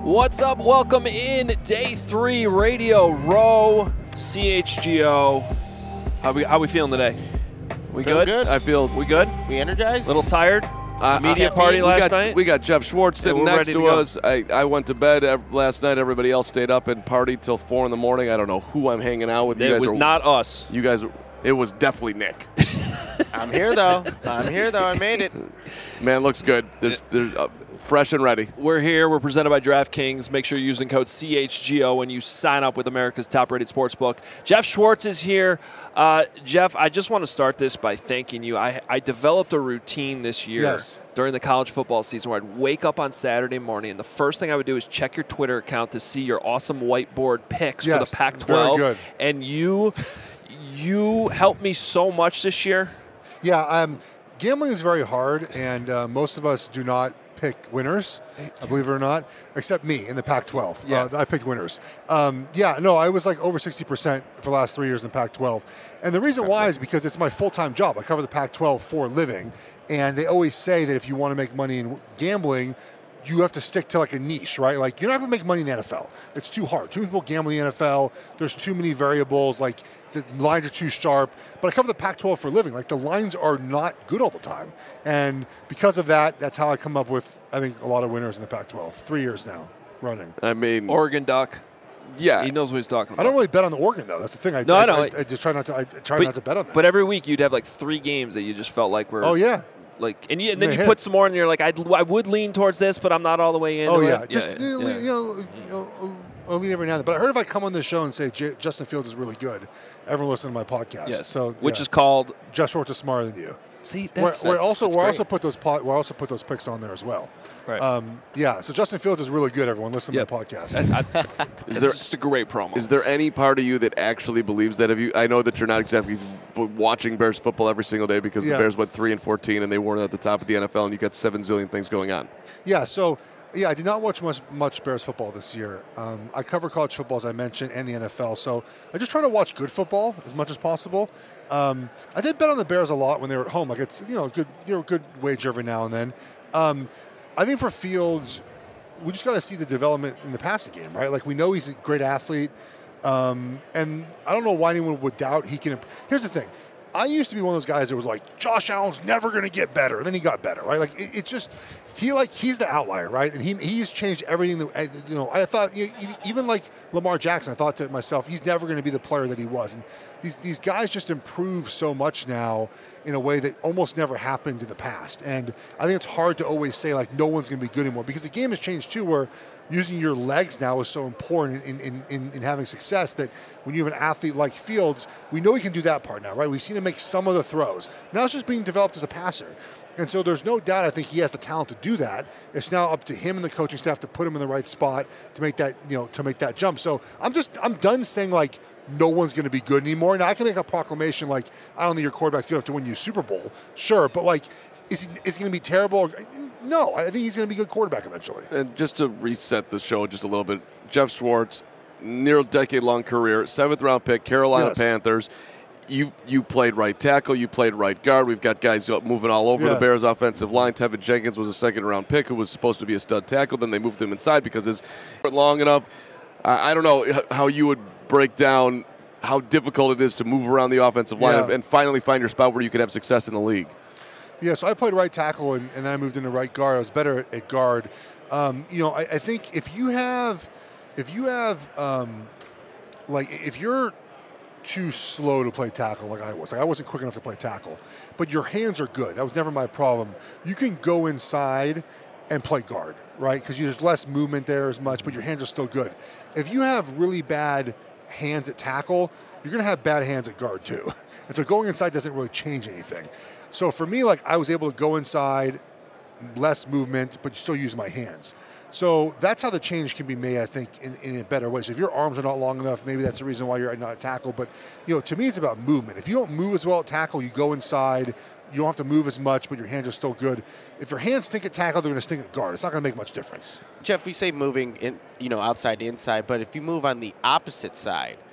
What's up? Welcome in Day 3 Radio Row, CHGO. How we feeling today? We Feeling good? good. We good? We energized? A little tired? Media party last night? We got Jeff Schwartz sitting next to us. go. I went to bed last night. Everybody else stayed up and partied till 4 in the morning. I don't know who I'm hanging out with. It was not us. You guys. It was definitely Nick. I'm here, though. I made it. Man, looks good. There's fresh and ready. We're here. We're presented by DraftKings. Make sure you're using code CHGO when you sign up with America's top-rated sportsbook. Jeff Schwartz is here. Jeff, I just want to start this by thanking you. I developed a routine this year during the college football season where I'd wake up on Saturday morning, and the first thing I would do is check your Twitter account to see your awesome whiteboard picks for the Pac-12. Very good. And you helped me so much this year. Yeah, gambling is very hard, and most of us do not pick winners, believe it or not, except me in the Pac-12. Yeah. I picked winners. I was like over 60% for the last 3 years in the Pac-12. And the reason why is because it's my full-time job. I cover the Pac-12 for a living, and they always say that if you want to make money in gambling, you have to stick to like a niche, right? Like you're not going to make money in the NFL. It's too hard. Too many people gamble in the NFL. There's too many variables. Like the lines are too sharp. But I cover the Pac-12 for a living. Like the lines are not good all the time. And because of that, that's how I come up with, I think, a lot of winners in the Pac-12. 3 years now running. I mean, Oregon Duck. yeah. He knows what he's talking about. I don't really bet on the Oregon though. That's the thing. I know. I just try not to. Not to bet on that. But every week you'd have like 3 games that you just felt like were. Oh yeah. Like and then you put some more, and you're like, I would lean towards this, but I'm not all the way in. Oh yeah, I'll lean every now and then. But I heard if I come on this show and say Justin Fields is really good, everyone listen to my podcast. Yes. So which is called Jeff Schwartz is smarter than you. See, we also put those picks on there as well. Right. So Justin Fields is really good. Everyone, listen to the podcast. It's just a great promo. Is there any part of you that actually believes that? I know that you're not exactly watching Bears football every single day because the Bears went 3-14 and they weren't at the top of the NFL, and you got 7 zillion things going on. Yeah. So. Yeah, I did not watch much Bears football this year. I cover college football, as I mentioned, and the NFL. So I just try to watch good football as much as possible. I did bet on the Bears a lot when they were at home. Like it's good wager every now and then. I think for Fields, we just got to see the development in the passing game, right? Like we know he's a great athlete, and I don't know why anyone would doubt he can. Here's the thing. I used to be one of those guys that was like, Josh Allen's never going to get better. And then he got better, right? Like, it's just, he's the outlier, right? And he's changed everything. I thought, even like Lamar Jackson, I thought to myself, he's never going to be the player that he was. And these guys just improve so much now in a way that almost never happened in the past. And I think it's hard to always say, like, no one's going to be good anymore because the game has changed, too, where using your legs now is so important in having success that when you have an athlete like Fields, we know he can do that part now, right? We've seen him make some of the throws. Now it's just being developed as a passer. And so there's no doubt I think he has the talent to do that. It's now up to him and the coaching staff to put him in the right spot to make that jump. So I'm done saying like no one's going to be good anymore. Now I can make a proclamation like I don't think your quarterback's good enough to win you a Super Bowl. Sure, but like is he going to be terrible? No, I think he's going to be a good quarterback eventually. And just to reset the show just a little bit, Jeff Schwartz, near decade-long career, 7th-round pick, Carolina Panthers. You played right tackle. You played right guard. We've got guys moving all over the Bears' offensive line. Tevin Jenkins was a 2nd-round pick who was supposed to be a stud tackle. Then they moved him inside because it's long enough. I don't know how you would break down how difficult it is to move around the offensive line and finally find your spot where you could have success in the league. Yeah, so I played right tackle, and then I moved into right guard. I was better at guard. I think if you're too slow to play tackle like I wasn't quick enough to play tackle, but your hands are good. That was never my problem. You can go inside and play guard, right? Because there's less movement there as much, but your hands are still good. If you have really bad hands at tackle, you're going to have bad hands at guard too. And so going inside doesn't really change anything. So for me, like I was able to go inside, less movement, but still use my hands. So that's how the change can be made, I think, in a better way. So if your arms are not long enough, maybe that's the reason why you're not at tackle. But, to me, it's about movement. If you don't move as well at tackle, you go inside. You don't have to move as much, but your hands are still good. If your hands stink at tackle, they're going to stink at guard. It's not going to make much difference. Jeff, we say moving outside to inside, but if you move on the opposite side,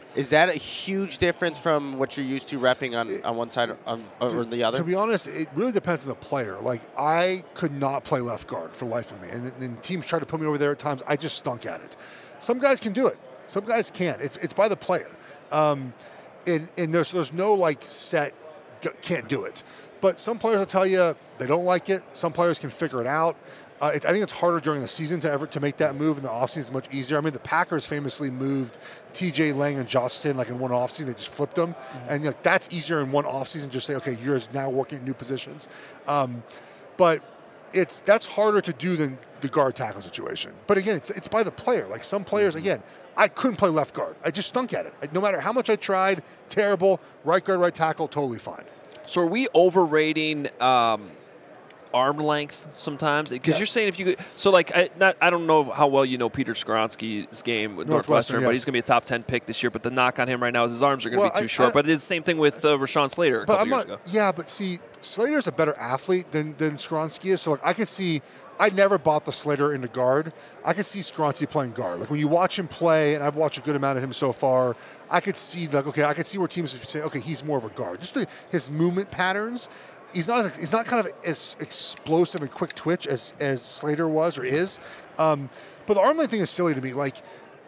Is that a huge difference from what you're used to repping on one side or the other? To be honest, it really depends on the player. Like, I could not play left guard for life of me. And teams try to put me over there at times. I just stunk at it. Some guys can do it. Some guys can't. It's by the player. And there's no, like, set can't do it. But some players will tell you they don't like it. Some players can figure it out. I think it's harder during the season to make that move. In the offseason, it's much easier. I mean, the Packers famously moved T.J. Lang and Josh Sinn like in one offseason. They just flipped them. Mm-hmm. And that's easier in one offseason. Just say, okay, you're now working in new positions. But that's harder to do than the guard tackle situation. But again, it's by the player. Like some players, again, I couldn't play left guard. I just stunk at it. No matter how much I tried, terrible. Right guard, right tackle, totally fine. So are we overrating arm length sometimes? Because you're saying if you could, so like I don't know how well you know Peter Skoronski's game with Northwestern, but he's going to be a top 10 pick this year. But the knock on him right now is his arms are going to be too short. But it's the same thing with Rashawn Slater a couple years ago. Yeah, but see, Slater's a better athlete than Skoronski is. So like I could see, I never bought the Slater into guard. I could see Skoronski playing guard. Like when you watch him play, and I've watched a good amount of him so far, I could see I could see where teams would say, okay, he's more of a guard. Just his movement patterns. He's not kind of as explosive and quick twitch as Slater was or is. But the arm length thing is silly to me. Like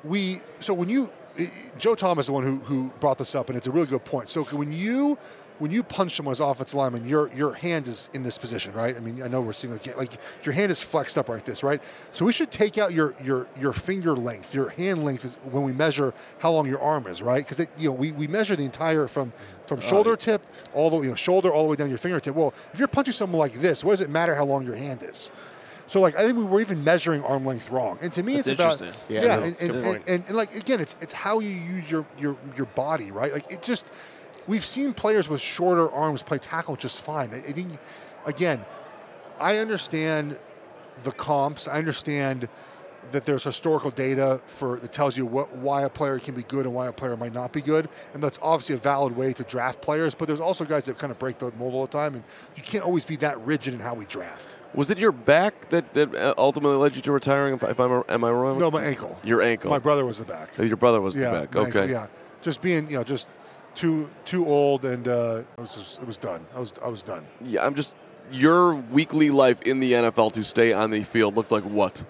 Joe Thomas is the one who brought this up, and it's a really good point. So when you punch someone as offensive lineman, your hand is in this position, right? I mean, I know we're seeing like your hand is flexed up like this, right? So we should take out your finger length, your hand length is when we measure how long your arm is, right? Because we measure the entire from shoulder tip all the way, shoulder all the way down your fingertip. Well, if you're punching someone like this, what does it matter how long your hand is? So like I think we were even measuring arm length wrong, and to me it's about and like again it's how you use your body, right? Like it just. We've seen players with shorter arms play tackle just fine. I think, again, I understand the comps. I understand that there's historical data that tells you why a player can be good and why a player might not be good, and that's obviously a valid way to draft players. But there's also guys that kind of break the mold all the time, and you can't always be that rigid in how we draft. Was it your back that ultimately led you to retiring? Am I wrong? No, my ankle. Your ankle. My brother was the back. So your brother was the back. Okay. Ankle, yeah, just being just. Too old, and it was done. I was done. Yeah, your weekly life in the NFL to stay on the field looked like what?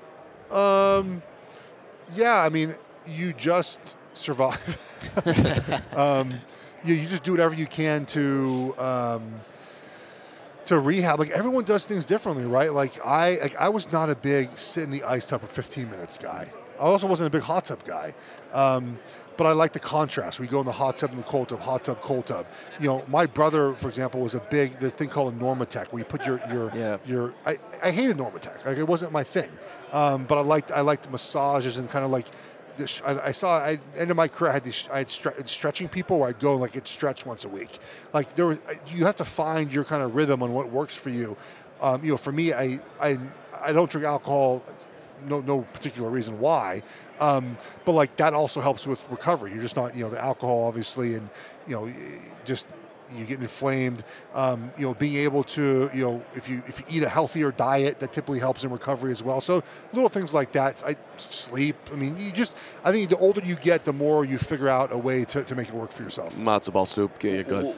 Yeah, I mean, you just survive. You just do whatever you can to rehab. Like everyone does things differently, right? Like I was not a big sit in the ice tub for 15 minutes guy. I also wasn't a big hot tub guy. But I like the contrast. We go in the hot tub and the cold tub, hot tub, cold tub. My brother, for example, was this thing called a Normatec, where you put your I hated Normatec. Like it wasn't my thing. But I liked massages and kind of like. I ended my career. I had stretching people where I'd go and like get stretched once a week. Like you have to find your kind of rhythm on what works for you. For me, I don't drink alcohol. No particular reason why, but like that also helps with recovery. You're just not, the alcohol obviously, and just you get inflamed. Being able to, if you eat a healthier diet, that typically helps in recovery as well. So little things like that. Sleep. I mean, I think the older you get, the more you figure out a way to make it work for yourself. Matzo ball soup, get you good.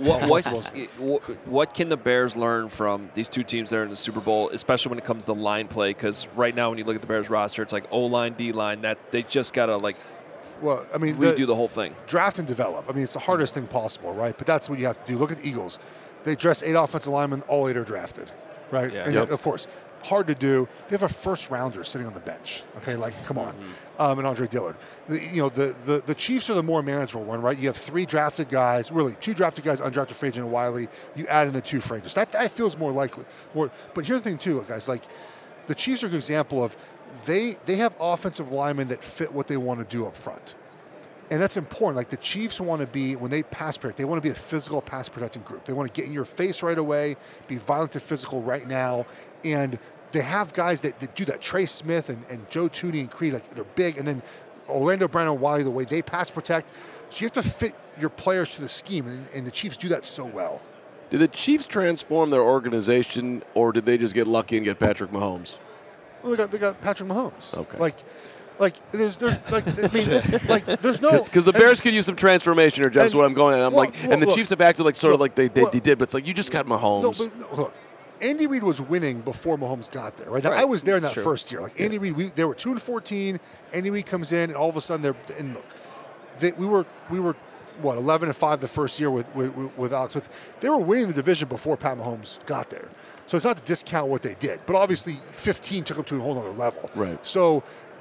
What can the Bears learn from these two teams that are in the Super Bowl, especially when it comes to line play? Because right now, when you look at the Bears roster, it's like O-line, D-line, that they just got to like. Well, I mean, redo the whole thing. Draft and develop. I mean, it's the hardest thing possible, right? But that's what you have to do. Look at the Eagles. They dress 8 offensive linemen, all 8 are drafted, right? Yeah. And of course, hard to do. They have a first rounder sitting on the bench. Okay, like come on, and Andre Dillard. The Chiefs are the more manageable one, right? You have 3 drafted guys, really 2 drafted guys, undrafted free agent and Wiley. You add in the 2 free agents. That feels more likely. But here's the thing too, guys. Like the Chiefs are a good example of they have offensive linemen that fit what they want to do up front. And that's important. Like the Chiefs want to be, when they pass protect, they want to be a physical pass protecting group. They want to get in your face right away, be violent and physical right now. And they have guys that do that. Trey Smith and Joe Tooney and Creed, like they're big. And then Orlando Brown and Wiley, the way they pass protect. So you have to fit your players to the scheme. And the Chiefs do that so well. Did the Chiefs transform their organization, or did they just get lucky and get Patrick Mahomes? Well, they got Patrick Mahomes. Okay. Like, Like there's like I mean like there's no because the Bears could use some transformation here, Jeff. That's what I'm going at. And the look, Chiefs have acted like sort of like they well, did, but it's like you just got Mahomes. No, look, Andy Reid was winning before Mahomes got there. Right now, Right. I was there in that True. first year. Like Andy Reid, they were 2-14. Andy Reid comes in, and all of a sudden we were what 11-5 the first year with Alex Smith. They were winning the division before Pat Mahomes got there. So it's not to discount what they did, but obviously 15 took them to a whole other level. Right. So.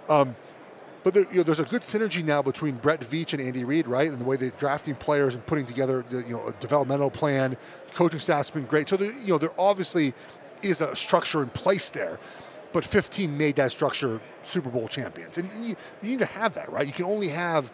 But there's a good synergy now between Brett Veach and Andy Reid, right? And the way they're drafting players and putting together a developmental plan. Coaching staff's been great. So there obviously is a structure in place there. But 15 made that structure Super Bowl champions. And you need to have that, right? You can only have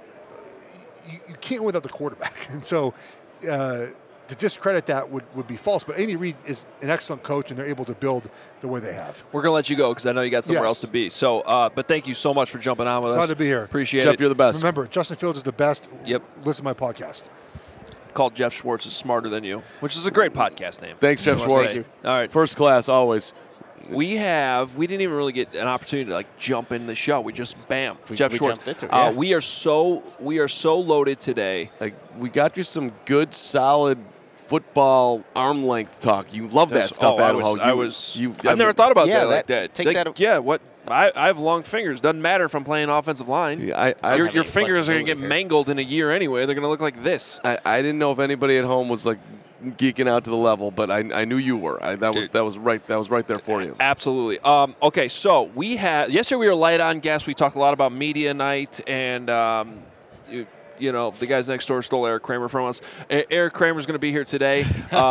– you can't win without the quarterback. And so to discredit that would be false. But Andy Reid is an excellent coach, and they're able to build the way they have. We're going to let you go because I know you got somewhere else to be. So, but thank you so much for jumping on with us. Glad to be here. Appreciate Jeff, it. you're the best. Remember, Justin Fields is the best. Yep. Listen to my podcast. Called Jeff Schwartz is Smarter Than You, which is a great podcast name. Thanks, Jeff I wanna Schwartz. say. All right. First class, always. We didn't even really get an opportunity to jump in the show. We just Jeff we Schwartz. jumped into it, yeah. We are so loaded today. Like we got you some good, solid football arm length talk. You love that stuff, Adam. I've never thought about that like that. take that- Yeah, what? I have long fingers. Doesn't matter if I'm playing offensive line. Yeah, Your fingers are going to get here. mangled in a year anyway. They're going to look like this. I didn't know if anybody at home was geeking out to the level, but I knew you were. That was right there for you. Absolutely. Okay, so yesterday we were light on guests. We talked a lot about media night, and the guys next door stole Eric Kramer from us. Eric Kramer's going to be here today.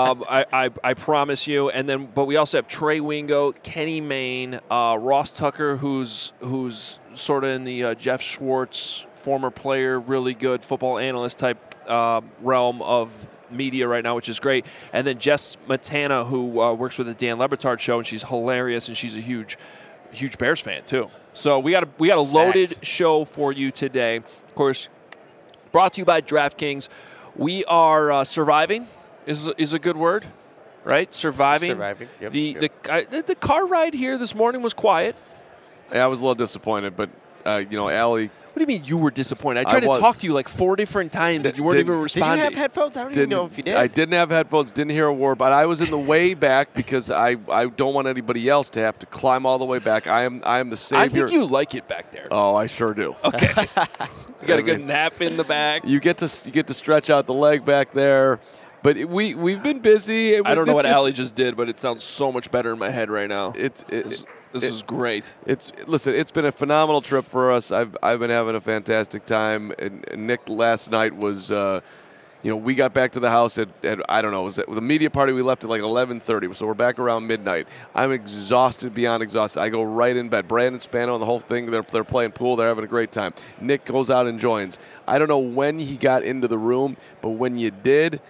I promise you. But we also have Trey Wingo, Kenny Mayne, Ross Tucker, who's sort of in the Jeff Schwartz, former player, really good football analyst type realm of media right now, which is great. And then Jess Matana, who works with the Dan Le Batard show, and she's hilarious, and she's a huge Bears fan too. So we got a loaded show for you today. Of course, brought to you by DraftKings. We are surviving is a good word, right? Surviving. Yep. The car ride here this morning was quiet. Yeah, I was a little disappointed, but Allie. What do you mean you were disappointed? I tried to talk to you 4 different times, and you weren't even responding. Did you have headphones? I don't even know if you did. I didn't have headphones, didn't hear a word, but I was in the way back because I don't want anybody else to have to climb all the way back. I am the savior. I think you like it back there. Oh, I sure do. Okay. You got a good nap in the back. You get to stretch out the leg back there. But we've been busy. I don't know what Allie just did, but it sounds so much better in my head right now. This is great. Listen, it's been a phenomenal trip for us. I've been having a fantastic time. And Nick last night was, we got back to the house at I don't know, was the media party we left at 11:30. So we're back around midnight. I'm exhausted beyond exhausted. I go right in bed. Brandon Spano and the whole thing. They're playing pool. They're having a great time. Nick goes out and joins. I don't know when he got into the room, but when you did,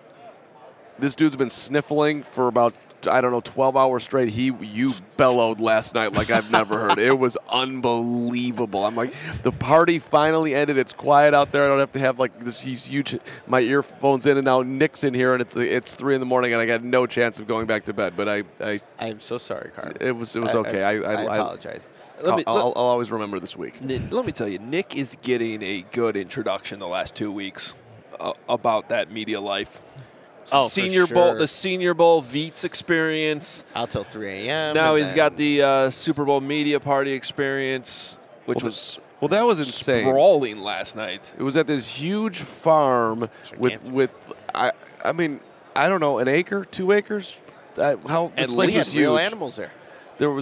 this dude's been sniffling for about 12 hours straight. You bellowed last night like I've never heard. It was unbelievable. I'm like, the party finally ended. It's quiet out there. I don't have to have these huge my earphones in, and now Nick's in here, and it's 3 in the morning, and I got no chance of going back to bed. But I'm so sorry, Carter. It was okay. I apologize. I'll always remember this week. Let me tell you, Nick is getting a good introduction the last 2 weeks about that media life. Oh, Senior for Bowl, sure. the Senior Bowl Veets experience. Out till 3 a.m. Now he's got the Super Bowl media party experience, which was that was insane. Sprawling last night. It was at this huge farm with I mean, I don't know, an acre, 2 acres. How this place was huge. Real animals there. There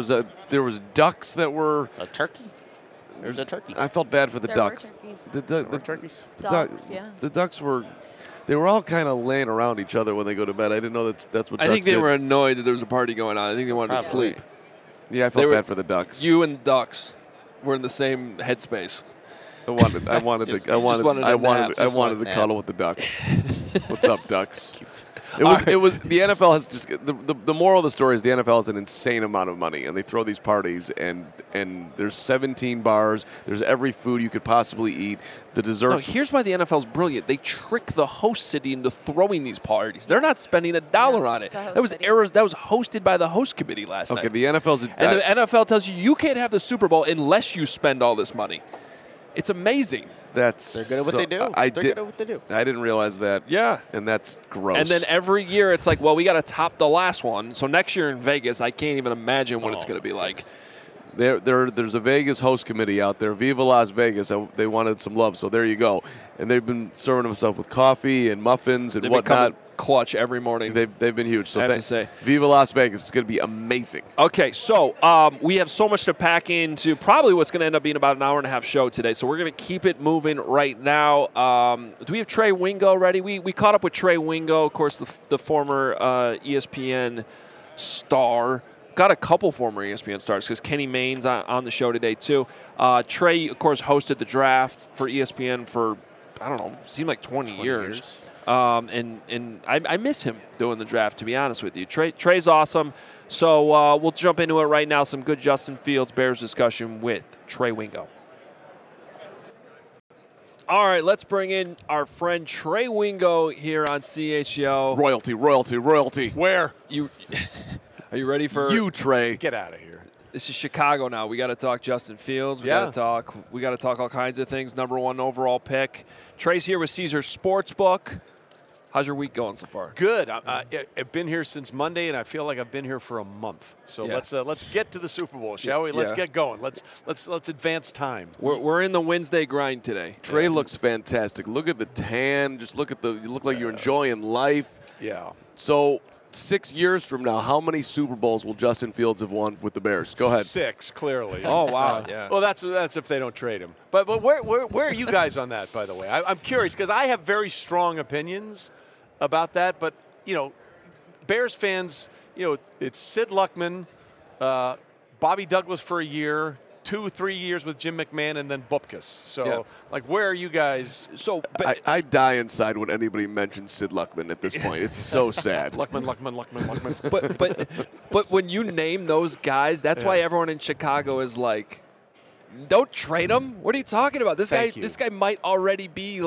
was ducks that were a turkey. There's a turkey. I felt bad for the ducks. There were turkeys. Dogs, yeah. The ducks were. They were all kind of laying around each other when they go to bed. I didn't know that's what. I think they did. were annoyed that there was a party going on. I think they wanted to sleep. Yeah, I felt bad for the ducks. You and the ducks were in the same headspace. I wanted to cuddle with the duck. What's up, ducks? It was the NFL has just the moral of the story is the NFL has an insane amount of money, and they throw these parties, and there's 17 bars, there's every food you could possibly eat. The desserts. No, here's why the NFL's brilliant. They trick the host city into throwing these parties. They're not spending $1 on it. That was hosted by the host committee last night. Okay, the NFL's and the NFL tells you can't have the Super Bowl unless you spend all this money. It's amazing. They're good at what they do. They're good at what they do. I didn't realize that. Yeah. And that's gross. And then every year it's like, well, we got to top the last one. So next year in Vegas, I can't even imagine what it's going to be like. There's a Vegas host committee out there, Viva Las Vegas. They wanted some love, so there you go. And they've been serving themselves with coffee and muffins and whatnot. Clutch every morning. They've been huge. So I have to say, Viva Las Vegas. It's going to be amazing. Okay, so we have so much to pack into probably what's going to end up being about an hour and a half show today. So we're going to keep it moving right now. Do we have Trey Wingo ready? We caught up with Trey Wingo, of course, the former ESPN star. Got a couple former ESPN stars because Kenny Mayne's on the show today too. Trey, of course, hosted the draft for ESPN for, I don't know, seemed like 20 years. And I miss him doing the draft, to be honest with you. Trey's awesome. So we'll jump into it right now. Some good Justin Fields Bears discussion with Trey Wingo. All right, let's bring in our friend Trey Wingo here on CHGO. Royalty. Where? Are you ready for you, Trey? Get out of here. This is Chicago now. We got to talk Justin Fields. We got to talk all kinds of things. Number 1 overall pick. Trey's here with Caesars Sportsbook. How's your week going so far? Good. I've been here since Monday, and I feel like I've been here for a month. So let's get to the Super Bowl, shall we? Let's get going. Let's advance time. We're in the Wednesday grind today. Trey looks fantastic. Look at the tan. Just look at you look like you're enjoying life. Yeah. So 6 years from now, how many Super Bowls will Justin Fields have won with the Bears? Go ahead. 6, clearly. Oh, wow. Yeah. Well, that's if they don't trade him. But where are you guys on that, by the way? I'm curious because I have very strong opinions about that. But, Bears fans, it's Sid Luckman, Bobby Douglas for a year, 2-3 years with Jim McMahon, and then Bupkis. So, where are you guys? So I die inside when anybody mentions Sid Luckman at this point. It's so sad. Luckman. But when you name those guys, that's why everyone in Chicago is like, don't trade him. What are you talking about? This guy might already be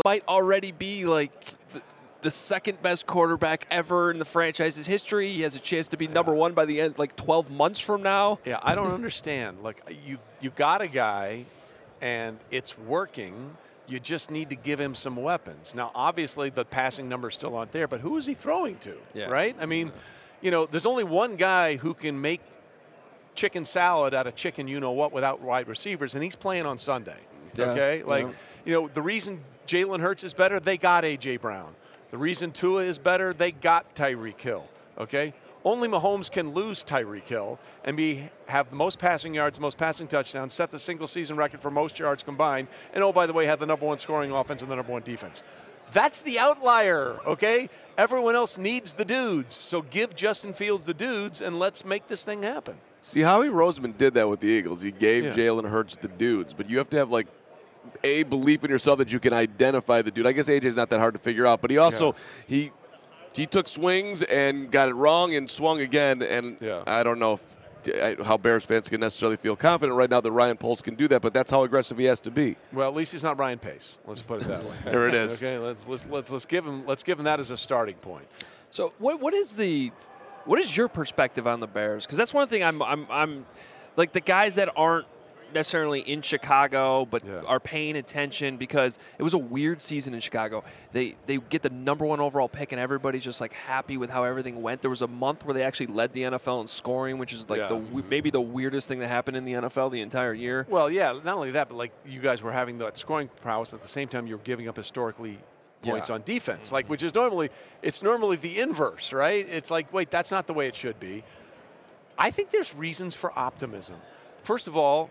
like the second best quarterback ever in the franchise's history. He has a chance to be number 1 by the end, like 12 months from now. Yeah, I don't understand. Like, you got a guy, and it's working. You just need to give him some weapons. Now, obviously, the passing numbers still aren't there, but who is he throwing to, right? I mean, there's only one guy who can make chicken salad out of chicken you-know-what without wide receivers, and he's playing on Sunday, okay? The reason Jalen Hurts is better, they got A.J. Brown. The reason Tua is better, they got Tyreek Hill, okay? Only Mahomes can lose Tyreek Hill and have the most passing yards, most passing touchdowns, set the single-season record for most yards combined, and, oh, by the way, have the number 1 scoring offense and the number 1 defense. That's the outlier, okay? Everyone else needs the dudes, so give Justin Fields the dudes, and let's make this thing happen. See, Howie Roseman did that with the Eagles. He gave Jalen Hurts the dudes, but you have to have, a belief in yourself that you can identify the dude. I guess AJ's not that hard to figure out, but he also he took swings and got it wrong and swung again. And I don't know how Bears fans can necessarily feel confident right now that Ryan Poles can do that, but that's how aggressive he has to be. Well, at least he's not Ryan Pace. Let's put it that way. There it is. Okay, let's give him that as a starting point. So what is your perspective on the Bears? Because that's one thing I'm like the guys that aren't necessarily in Chicago but are paying attention because it was a weird season in Chicago. They get the number 1 overall pick and everybody's just like happy with how everything went. There was a month where they actually led the NFL in scoring, which is like maybe the weirdest thing that happened in the NFL the entire year. Well, yeah, not only that, but like you guys were having that scoring prowess at the same time you were giving up historically points on defense, which is normally the inverse, right? It's like, wait, that's not the way it should be. I think there's reasons for optimism. First of all,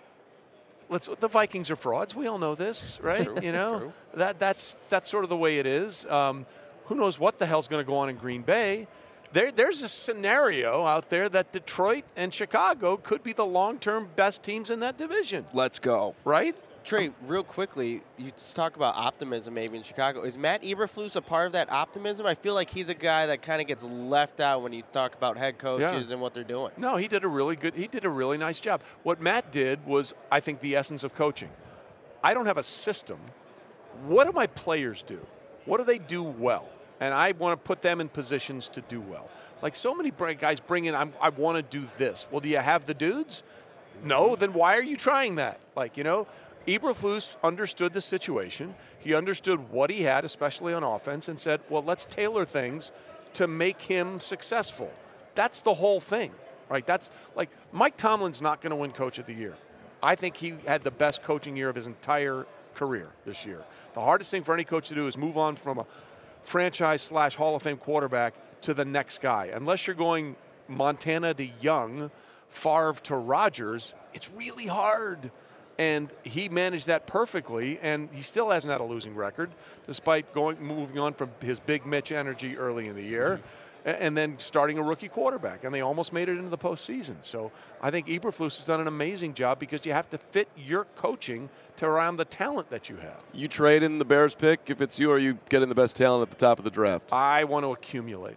the Vikings are frauds. We all know this, right? True. True. That's sort of the way it is. Who knows what the hell's going to go on in Green Bay? There's a scenario out there that Detroit and Chicago could be the long-term best teams in that division. Let's go. Right? Trey, real quickly, you talk about optimism maybe in Chicago. Is Matt Eberflus a part of that optimism? I feel like he's a guy that kind of gets left out when you talk about head coaches and what they're doing. No, he did a really nice job. What Matt did was, I think, the essence of coaching. I don't have a system. What do my players do? What do they do well? And I want to put them in positions to do well. Like so many guys bring in, I want to do this. Well, do you have the dudes? No, then why are you trying that? Eberflus understood the situation. He understood what he had, especially on offense, and said, well, let's tailor things to make him successful. That's the whole thing, right? That's like Mike Tomlin's not going to win Coach of the Year. I think he had the best coaching year of his entire career this year. The hardest thing for any coach to do is move on from a franchise/Hall of Fame quarterback to the next guy. Unless you're going Montana to Young, Favre to Rodgers, it's really hard. And he managed that perfectly, and he still hasn't had a losing record, despite moving on from his big Mitch energy early in the year, and then starting a rookie quarterback. And they almost made it into the postseason. So I think Eberflus has done an amazing job because you have to fit your coaching to around the talent that you have. You trade in the Bears pick if it's you, or you get in the best talent at the top of the draft? I want to accumulate,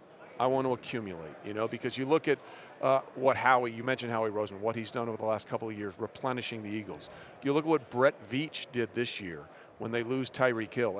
because you look at you mentioned Howie Roseman, what he's done over the last couple of years, replenishing the Eagles. You look at what Brett Veach did this year when they lose Tyreek Hill.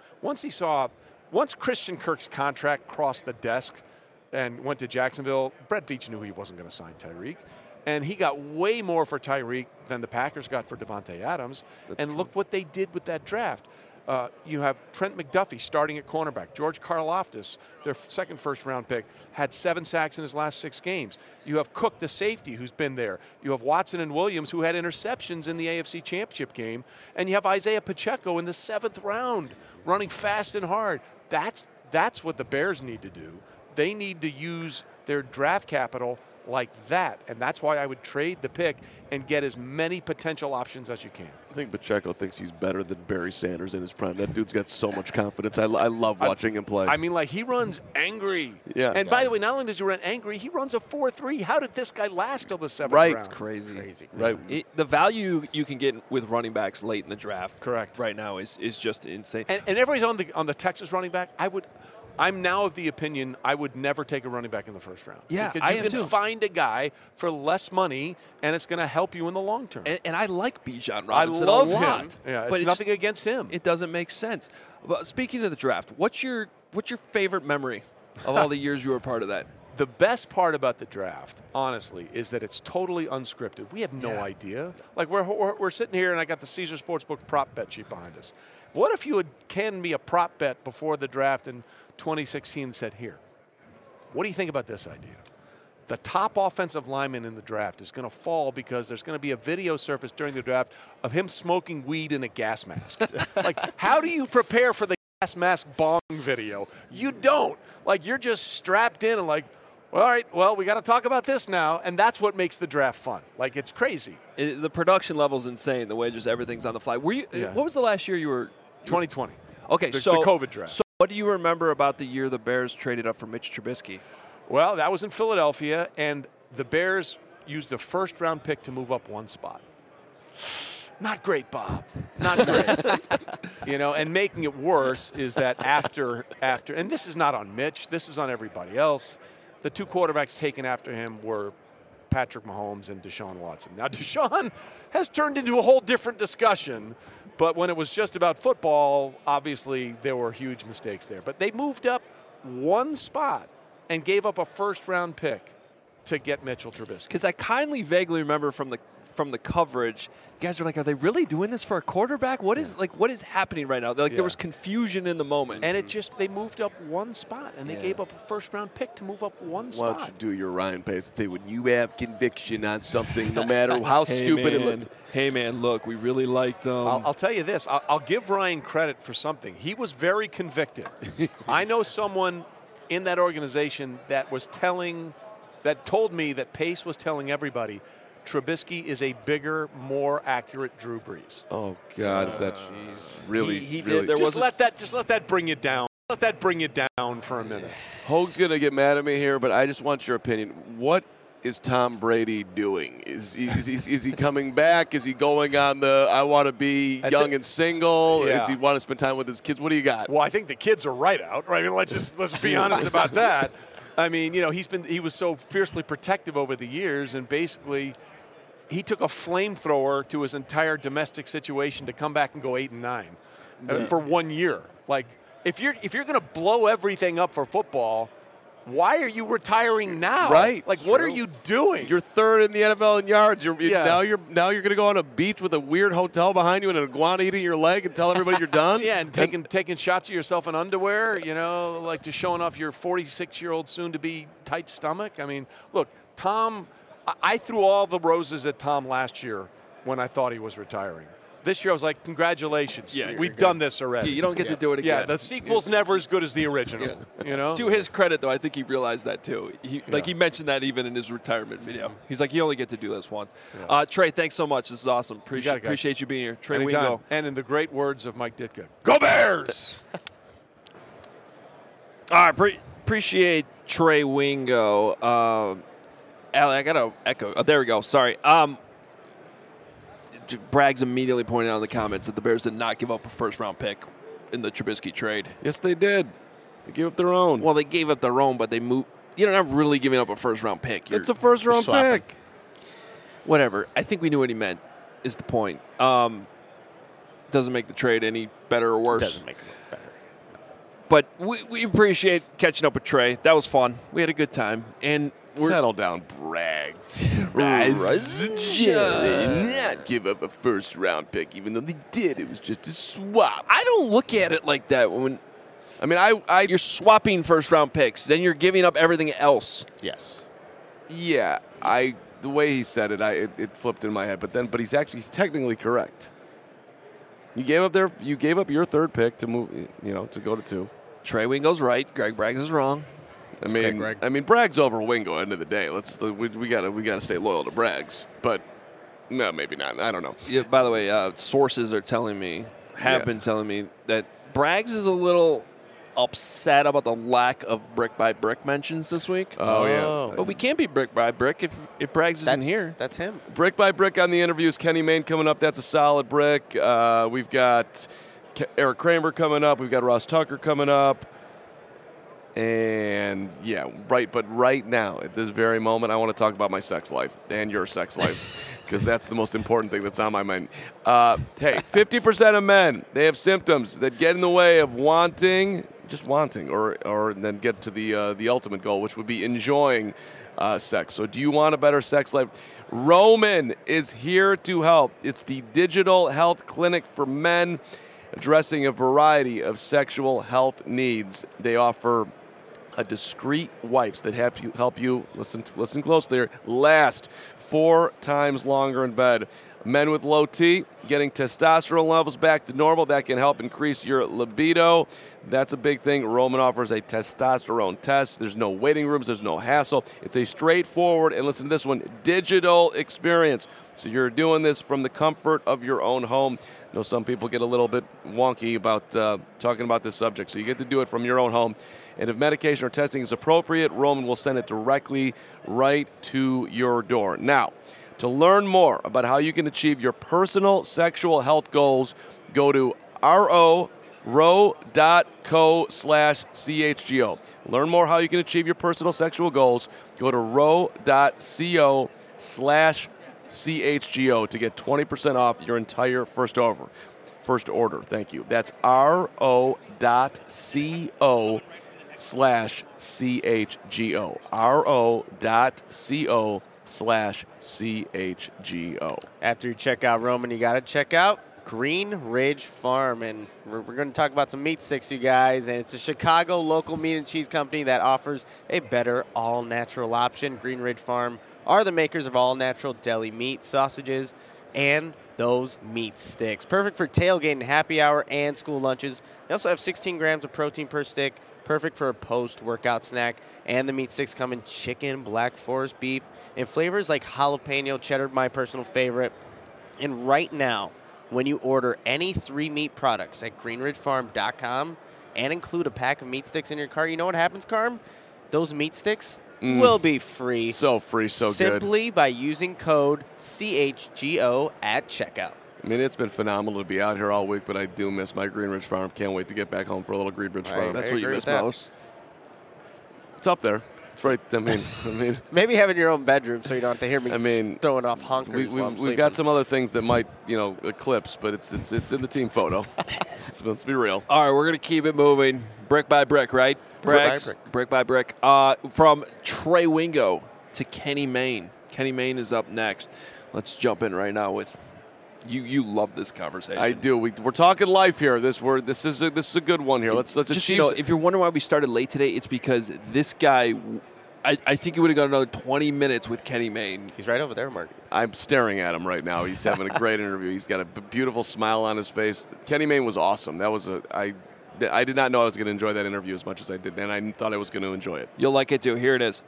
Once Christian Kirk's contract crossed the desk and went to Jacksonville, Brett Veach knew he wasn't going to sign Tyreek. And he got way more for Tyreek than the Packers got for Devontae Adams. Look what they did with that draft. You have Trent McDuffie starting at cornerback. George Karlaftis, their second first-round pick, had 7 sacks in his last 6 games. You have Cook, the safety, who's been there. You have Watson and Williams, who had interceptions in the AFC Championship game. And you have Isaiah Pacheco in the 7th round, running fast and hard. That's what the Bears need to do. They need to use their draft capital like that, and that's why I would trade the pick and get as many potential options as you can. I think Pacheco thinks he's better than Barry Sanders in his prime. That dude's got so much confidence. I love watching him play. He runs angry. Yeah. And by the way, not only does he run angry, he runs a 4.3. How did this guy last till the 7th round? It's crazy. Right. The value you can get with running backs late in the draft, correct, right now is just insane. And everybody's on the Texas running back. I'm now of the opinion I would never take a running back in the first round. Yeah, because you can find a guy for less money, and it's going to help you in the long term. And I like Bijan Robinson a lot. Him. Yeah, it's nothing against him. It doesn't make sense. But speaking of the draft, what's your favorite memory of all the years you were part of that? The best part about the draft, honestly, is that it's totally unscripted. We have no idea. Like we're sitting here, and I got the Caesar Sportsbook prop bet sheet behind us. What if you had canned me a prop bet before the draft in 2016 and said, here, what do you think about this idea? The top offensive lineman in the draft is going to fall because there's going to be a video surface during the draft of him smoking weed in a gas mask. Like, how do you prepare for the gas mask bong video? You don't. Like, you're just strapped in and like, all right, well, we got to talk about this now, and that's what makes the draft fun. Like, it's crazy. The production level's insane, the way just everything's on the fly. What was the last year you were? 2020. Okay, the COVID draft. So what do you remember about the year the Bears traded up for Mitch Trubisky? Well, that was in Philadelphia, and the Bears used a first-round pick to move up one spot. Not great, Bob. Not great. And making it worse is that after, and this is not on Mitch, this is on everybody else, the 2 quarterbacks taken after him were Patrick Mahomes and Deshaun Watson. Now, Deshaun has turned into a whole different discussion, but when it was just about football, obviously there were huge mistakes there. But they moved up one spot and gave up a first-round pick to get Mitchell Trubisky. Because I vaguely remember from the coverage, you guys are like, are they really doing this for a quarterback? What is happening right now? There was confusion in the moment. And they moved up one spot, and they gave up a first-round pick to move up one spot. Why don't you do your Ryan Pace and say, when you have conviction on something, no matter how stupid it looks. Hey, man, look, we really liked them. I'll tell you this. I'll give Ryan credit for something. He was very convicted. I know someone in that organization that told me that Pace was telling everybody Trubisky is a bigger, more accurate Drew Brees. Oh God, is that really? He really? did. Just let that bring you down. Let that bring you down for a minute. Hoag's gonna get mad at me here, but I just want your opinion. What is Tom Brady doing? Is he coming back? Is he going on the I want to be young and single? Yeah. Does he want to spend time with his kids? What do you got? Well, I think the kids are right out. Right? I mean, let's be honest about that. I mean, he was so fiercely protective over the years, and basically he took a flamethrower to his entire domestic situation to come back and go 8-9 for 1 year. Like, if you're going to blow everything up for football, why are you retiring now? Right. Like, what are you doing? You're third in the NFL in yards. Now you're going to go on a beach with a weird hotel behind you and an iguana eating your leg and tell everybody you're done. Yeah, and taking shots of yourself in underwear. Like just showing off your 46-year-old soon-to-be tight stomach. I mean, look, Tom. I threw all the roses at Tom last year when I thought he was retiring. This year I was like, congratulations. Yeah, we've done this already. You don't get to do it again. Yeah, the sequel's never as good as the original. To his credit, though, I think he realized that too. He mentioned that even in his retirement video. He's like, you only get to do this once. Yeah. Trey, thanks so much. This is awesome. Appreciate you being here. Trey Wingo. And in the great words of Mike Ditka, go Bears! All right, appreciate Trey Wingo. Allie, I got to echo. Oh, there we go. Sorry. Braggs immediately pointed out in the comments that the Bears did not give up a first-round pick in the Trubisky trade. Yes, they did. They gave up their own. Well, they gave up their own, but they moved. You're not really giving up a first-round pick. It's a first-round pick. Whatever. I think we knew what he meant is the point. Doesn't make the trade any better or worse. Doesn't make it better. But we appreciate catching up with Trey. That was fun. We had a good time. And settle down, Braggs. They did not give up a first-round pick, even though they did. It was just a swap. I don't look at it like that. You're swapping first-round picks, then you're giving up everything else. Yes. Yeah, the way he said it, it flipped in my head. But he's technically correct. You gave up your third pick to move, to go to 2. Trey Wingo's right. Greg Braggs is wrong. I mean, Bragg's over Wingo. End of the day, we gotta stay loyal to Braggs, but no, maybe not. I don't know. Yeah. By the way, sources are telling me, been telling me that Braggs is a little upset about the lack of brick by brick mentions this week. Oh yeah, but we can't be brick by brick if Braggs isn't here. That's him. Brick by brick on the interviews. Kenny Mayne coming up. That's a solid brick. We've got Eric Kramer coming up. We've got Ross Tucker coming up. And but right now, at this very moment, I want to talk about my sex life and your sex life because that's the most important thing that's on my mind. Hey, 50% of men, they have symptoms that get in the way of wanting, or then get to the ultimate goal, which would be enjoying sex. So do you want a better sex life? Roman is here to help. It's the digital health clinic for men, addressing a variety of sexual health needs. They offer discreet wipes that help you listen closely there, last 4 times longer in bed. Men with low T, getting testosterone levels back to normal, that can help increase your libido. That's a big thing. Roman offers a testosterone test. There's no waiting rooms. There's no hassle. It's a straightforward, and listen to this one, digital experience. So you're doing this from the comfort of your own home. I know some people get a little bit wonky about talking about this subject, so you get to do it from your own home. And if medication or testing is appropriate, Roman will send it directly right to your door. Now, to learn more about how you can achieve your personal sexual health goals, go to ro.co/CHGO. Learn more how you can achieve your personal sexual goals. Go to ro.co/CHGO to get 20% off your entire first order. Thank you. That's ro.co/CHGO. ro.co/CHGO. After you check out Roman, you got to check out Green Ridge Farm. And we're going to talk about some meat sticks, you guys. And it's a Chicago local meat and cheese company that offers a better all-natural option. Green Ridge Farm are the makers of all-natural deli meat, sausages, and those meat sticks. Perfect for tailgating, happy hour, and school lunches. They also have 16 grams of protein per stick. Perfect for a post-workout snack. And the meat sticks come in chicken, Black Forest beef, and flavors like jalapeno, cheddar, my personal favorite. And right now, when you order any 3 meat products at greenridgefarm.com and include a pack of meat sticks in your cart, you know what happens, Carm? Those meat sticks will be free. So free, so good. Simply by using code CHGO at checkout. I mean, it's been phenomenal to be out here all week, but I do miss my Green Ridge Farm. Can't wait to get back home for a little Green Ridge Farm. That's what you miss most. It's up there. It's right. I mean, maybe having your own bedroom so you don't have to hear me throwing off honkers. We've got some other things that might, eclipse, but it's in the team photo. Let's be real. All right, we're gonna keep it moving, brick by brick, right? Brick by brick. From Trey Wingo to Kenny Mayne. Kenny Mayne is up next. Let's jump in right now with. You love this conversation. I do. We're talking life here. This is a good one here. Let's just achieve. If you're wondering why we started late today, it's because this guy. I think he would have got another 20 minutes with Kenny Mayne. He's right over there, Mark. I'm staring at him right now. He's having a great interview. He's got a beautiful smile on his face. Kenny Mayne was awesome. I did not know I was going to enjoy that interview as much as I did, and I thought I was going to enjoy it. You'll like it too. Here it is.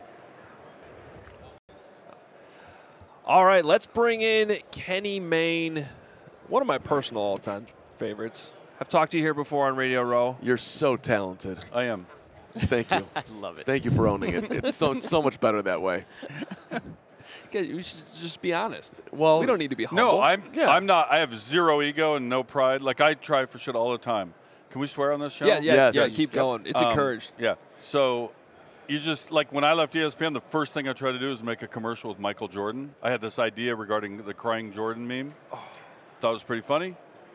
All right, let's bring in Kenny Mayne, one of my personal all-time favorites. I've talked to you here before on Radio Row. You're so talented. I am. Thank you. I love it. Thank you for owning it. It's so much better that way. We should just be honest. Well, we don't need to be humble. No, I'm not. I have zero ego and no pride. Like, I try for shit all the time. Can we swear on this show? Yeah. Keep going. It's encouraged. Yeah. So, you just, like, when I left ESPN, the first thing I tried to do was make a commercial with Michael Jordan. I had this idea regarding the crying Jordan meme. Thought it was pretty funny.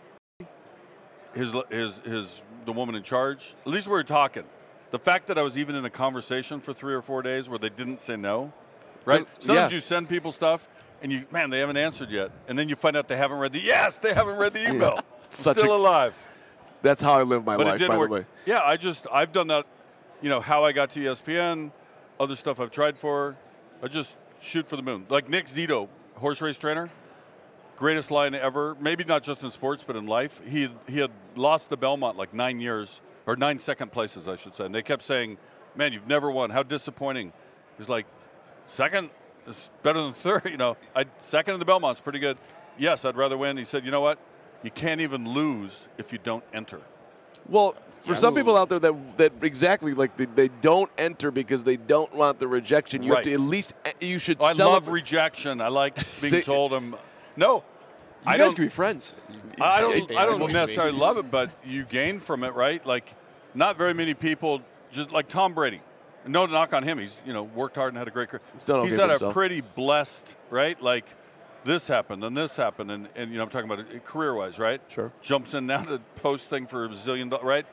The woman in charge. At least we were talking. The fact that I was even in a conversation for 3 or 4 days where they didn't say no, right? Sometimes you send people stuff and they haven't answered yet, and then you find out they haven't read they haven't read the email. Still alive. That's how I live my life, by the way. Yeah, I've done that. How I got to ESPN, other stuff I've tried for. I just shoot for the moon. Like Nick Zito, horse race trainer, greatest line ever. Maybe not just in sports, but in life. He had lost the Belmont like 9 years. Or 9 second places, I should say. And they kept saying, man, you've never won. How disappointing. He's like, second is better than third. Second in the Belmont's pretty good. Yes, I'd rather win. He said, you know what? You can't even lose if you don't enter. Well, for some people out there that exactly, like they don't enter because they don't want the rejection. You have to at least, you should I love rejection. I like being told no. You guys can be friends. I don't necessarily love it, but you gain from it, right? Like, not very many people, just like Tom Brady. No knock on him. He's worked hard and had a great career. He's had a pretty blessed, right? Like, this happened and this happened, and I'm talking about it career-wise, right? Sure. Jumps in now to post thing for $1 zillion, right?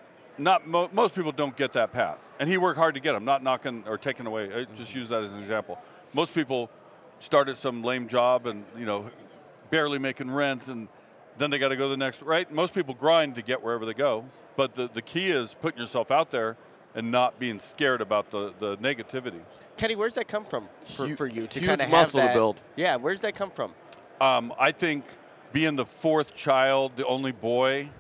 Most people don't get that path, and he worked hard to get them. Not knocking or taking away. I just use that as an example. Most people start at some lame job and barely making rent, and then they got to go to the next, right? Most people grind to get wherever they go, but the key is putting yourself out there and not being scared about the negativity. Kenny, where's that come from for you to huge kind of have muscle that? to build. Yeah, where's that come from? I think being the fourth child, the only boy,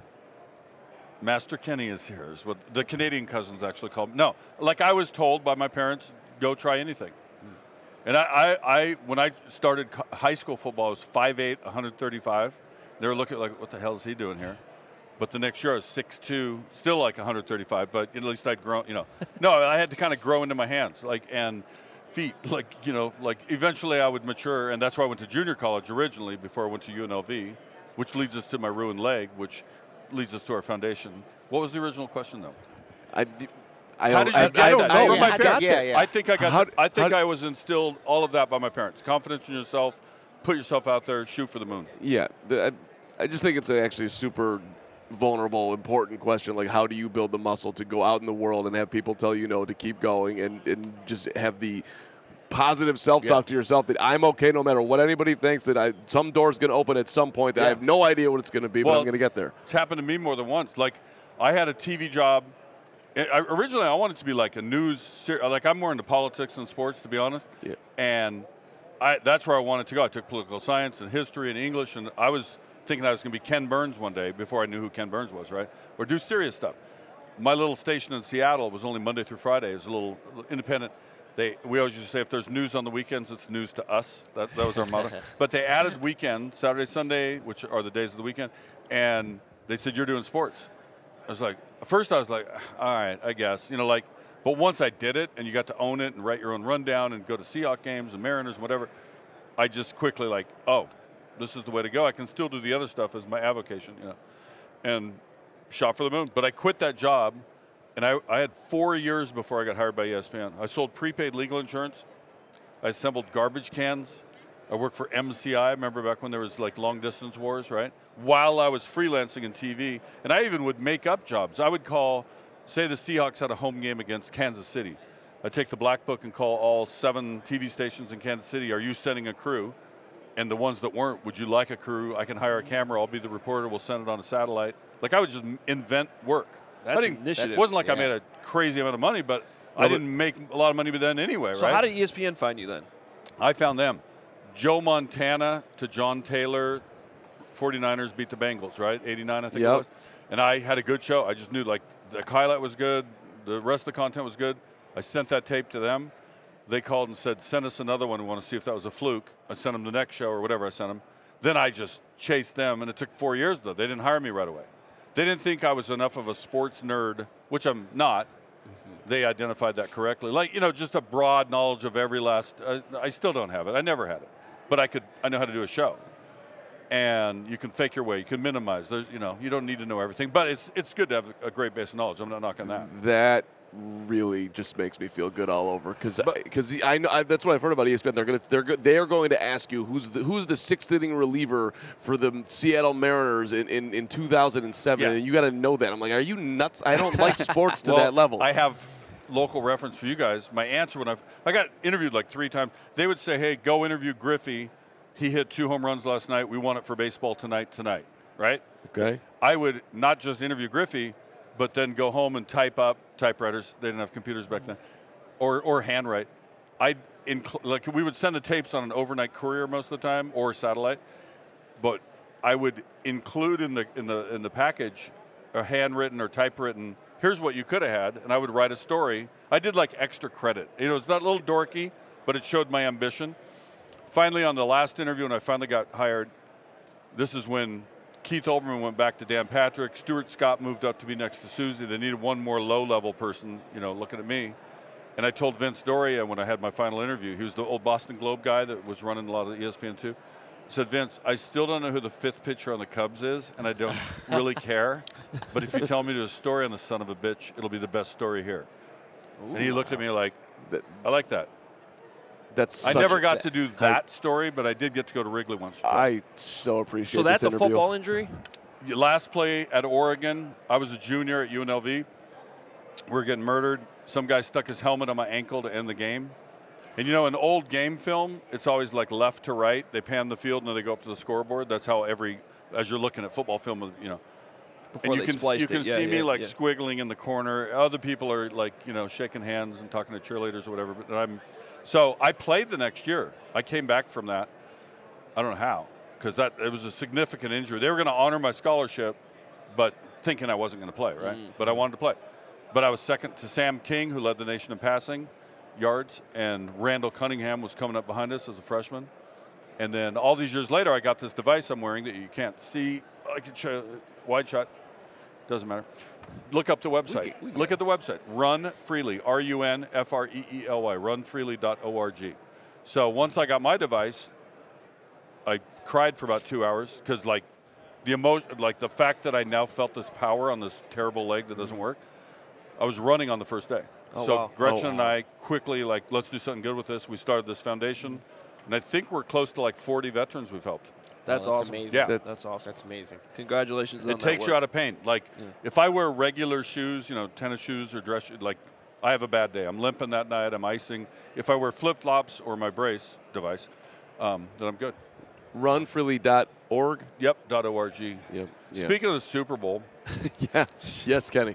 Master Kenny is here, is what the Canadian cousins actually call me. No, like I was told by my parents, go try anything. And I when I started high school football, I was 5'8", 135. They were looking like, what the hell is he doing here? But the next year I was 6'2", still like 135, but at least I'd grown, No, I had to kind of grow into my hands, and feet, like eventually I would mature, and that's why I went to junior college originally before I went to UNLV, which leads us to my ruined leg, which leads us to our foundation. What was the original question, though? I don't know. My parents. I think I got. I was instilled all of that by my parents. Confidence in yourself, put yourself out there, shoot for the moon. Yeah, I just think it's actually a super vulnerable, important question. Like, how do you build the muscle to go out in the world and have people tell you no, to keep going, and just have the positive self-talk to yourself that I'm okay no matter what anybody thinks, that some door's going to open at some point that I have no idea what it's going to be, but I'm going to get there. It's happened to me more than once. Like, I had a TV job. Originally, I wanted to be like a news, like I'm more into politics than sports, to be honest. Yeah. And that's where I wanted to go. I took political science and history and English, and I was thinking I was going to be Ken Burns one day before I knew who Ken Burns was, right? Or do serious stuff. My little station in Seattle was only Monday through Friday. It was a little independent. We always used to say, if there's news on the weekends, it's news to us. That was our motto. But they added weekend, Saturday, Sunday, which are the days of the weekend, and they said, you're doing sports. I was like, at first I was like, all right, I guess. But But once I did it, and you got to own it and write your own rundown and go to Seahawks games and Mariners and whatever, I just quickly like, oh, this is the way to go. I can still do the other stuff as my avocation, and shot for the moon. But I quit that job, and I had 4 years before I got hired by ESPN. I sold prepaid legal insurance. I assembled garbage cans. I worked for MCI. Remember back when there was like long distance wars, right? While I was freelancing in TV, and I even would make up jobs. I would call, say the Seahawks had a home game against Kansas City. I'd take the black book and call all 7 TV stations in Kansas City. Are you sending a crew? And the ones that weren't, would you like a crew? I can hire a camera. I'll be the reporter. We'll send it on a satellite. Like I would just invent work. That's initiative. It wasn't like I made a crazy amount of money, but I didn't make a lot of money then anyway, so right? So how did ESPN find you then? I found them. Joe Montana to John Taylor, 49ers beat the Bengals, right? 89, I think it was. And I had a good show. I just knew, like, the highlight was good. The rest of the content was good. I sent that tape to them. They called and said, send us another one. We want to see if that was a fluke. I sent them the next show or whatever I sent them. Then I just chased them, and it took 4 years, though. They didn't hire me right away. They didn't think I was enough of a sports nerd, which I'm not. They identified that correctly. Like, just a broad knowledge of every last I still don't have it. I never had it. But I know how to do a show. And you can fake your way. You can minimize. There's, you don't need to know everything. But it's good to have a great base of knowledge. I'm not knocking that. That really just makes me feel good all over because I know that's what I've heard about ESPN. They are going to ask you who's the sixth inning reliever for the Seattle Mariners in 2007, and you got to know that. I'm like, are you nuts? I don't like sports to that level. I have local reference for you guys. My answer when I got interviewed like 3 times, they would say, hey, go interview Griffey. He hit 2 home runs last night. We want it for baseball tonight, right? Okay. I would not just interview Griffey, but then go home and type up typewriters. They didn't have computers back then, or handwrite. We would send the tapes on an overnight courier most of the time or satellite, but I would include in the package a handwritten or typewritten. Here's what you could have had, and I would write a story. I did like extra credit. It's not a little dorky, but it showed my ambition. Finally, on the last interview, when I finally got hired, this is when Keith Olbermann went back to Dan Patrick. Stuart Scott moved up to be next to Susie. They needed one more low-level person, looking at me. And I told Vince Doria when I had my final interview, he was the old Boston Globe guy that was running a lot of ESPN too. I said, Vince, I still don't know who the 5th pitcher on the Cubs is, and I don't really care. But if you tell me to do a story on the son of a bitch, it'll be the best story here. Ooh, and he looked at me like, I like that. I never got to do that story, but I did get to go to Wrigley once. I so appreciate. So that's this a football injury? Last play at Oregon, I was a junior at UNLV. We were getting murdered. Some guy stuck his helmet on my ankle to end the game. And in old game film, it's always like left to right. They pan the field and then they go up to the scoreboard. That's how as you're looking at football film, Before and you can see me squiggling in the corner. Other people are like, shaking hands and talking to cheerleaders or whatever. But so I played the next year. I came back from that. I don't know how, because it was a significant injury. They were going to honor my scholarship, but thinking I wasn't going to play, right? But I wanted to play. But I was second to Sam King, who led the nation in passing yards, and Randall Cunningham was coming up behind us as a freshman. And then all these years later, I got this device I'm wearing that you can't see. I can show wide shot. Doesn't matter. Look up the website. Look at the website. Run Freely, RUNFREELY, runfreely.org. So once I got my device, I cried for about 2 hours because, the emotion, the fact that I now felt this power on this terrible leg that doesn't work. I was running on the first day. Gretchen and I quickly, let's do something good with this. We started this foundation, and I think we're close to 40 veterans we've helped. That's awesome. Amazing. Yeah. That's awesome. That's amazing. Congratulations on that. It takes you out of pain. If I wear regular shoes, tennis shoes or dress shoes, I have a bad day. I'm limping that night. I'm icing. If I wear flip-flops or my brace device, then I'm good. Runfreely.org? Yep, .org. Yep. Speaking of the Super Bowl. Yeah. Yes, Kenny.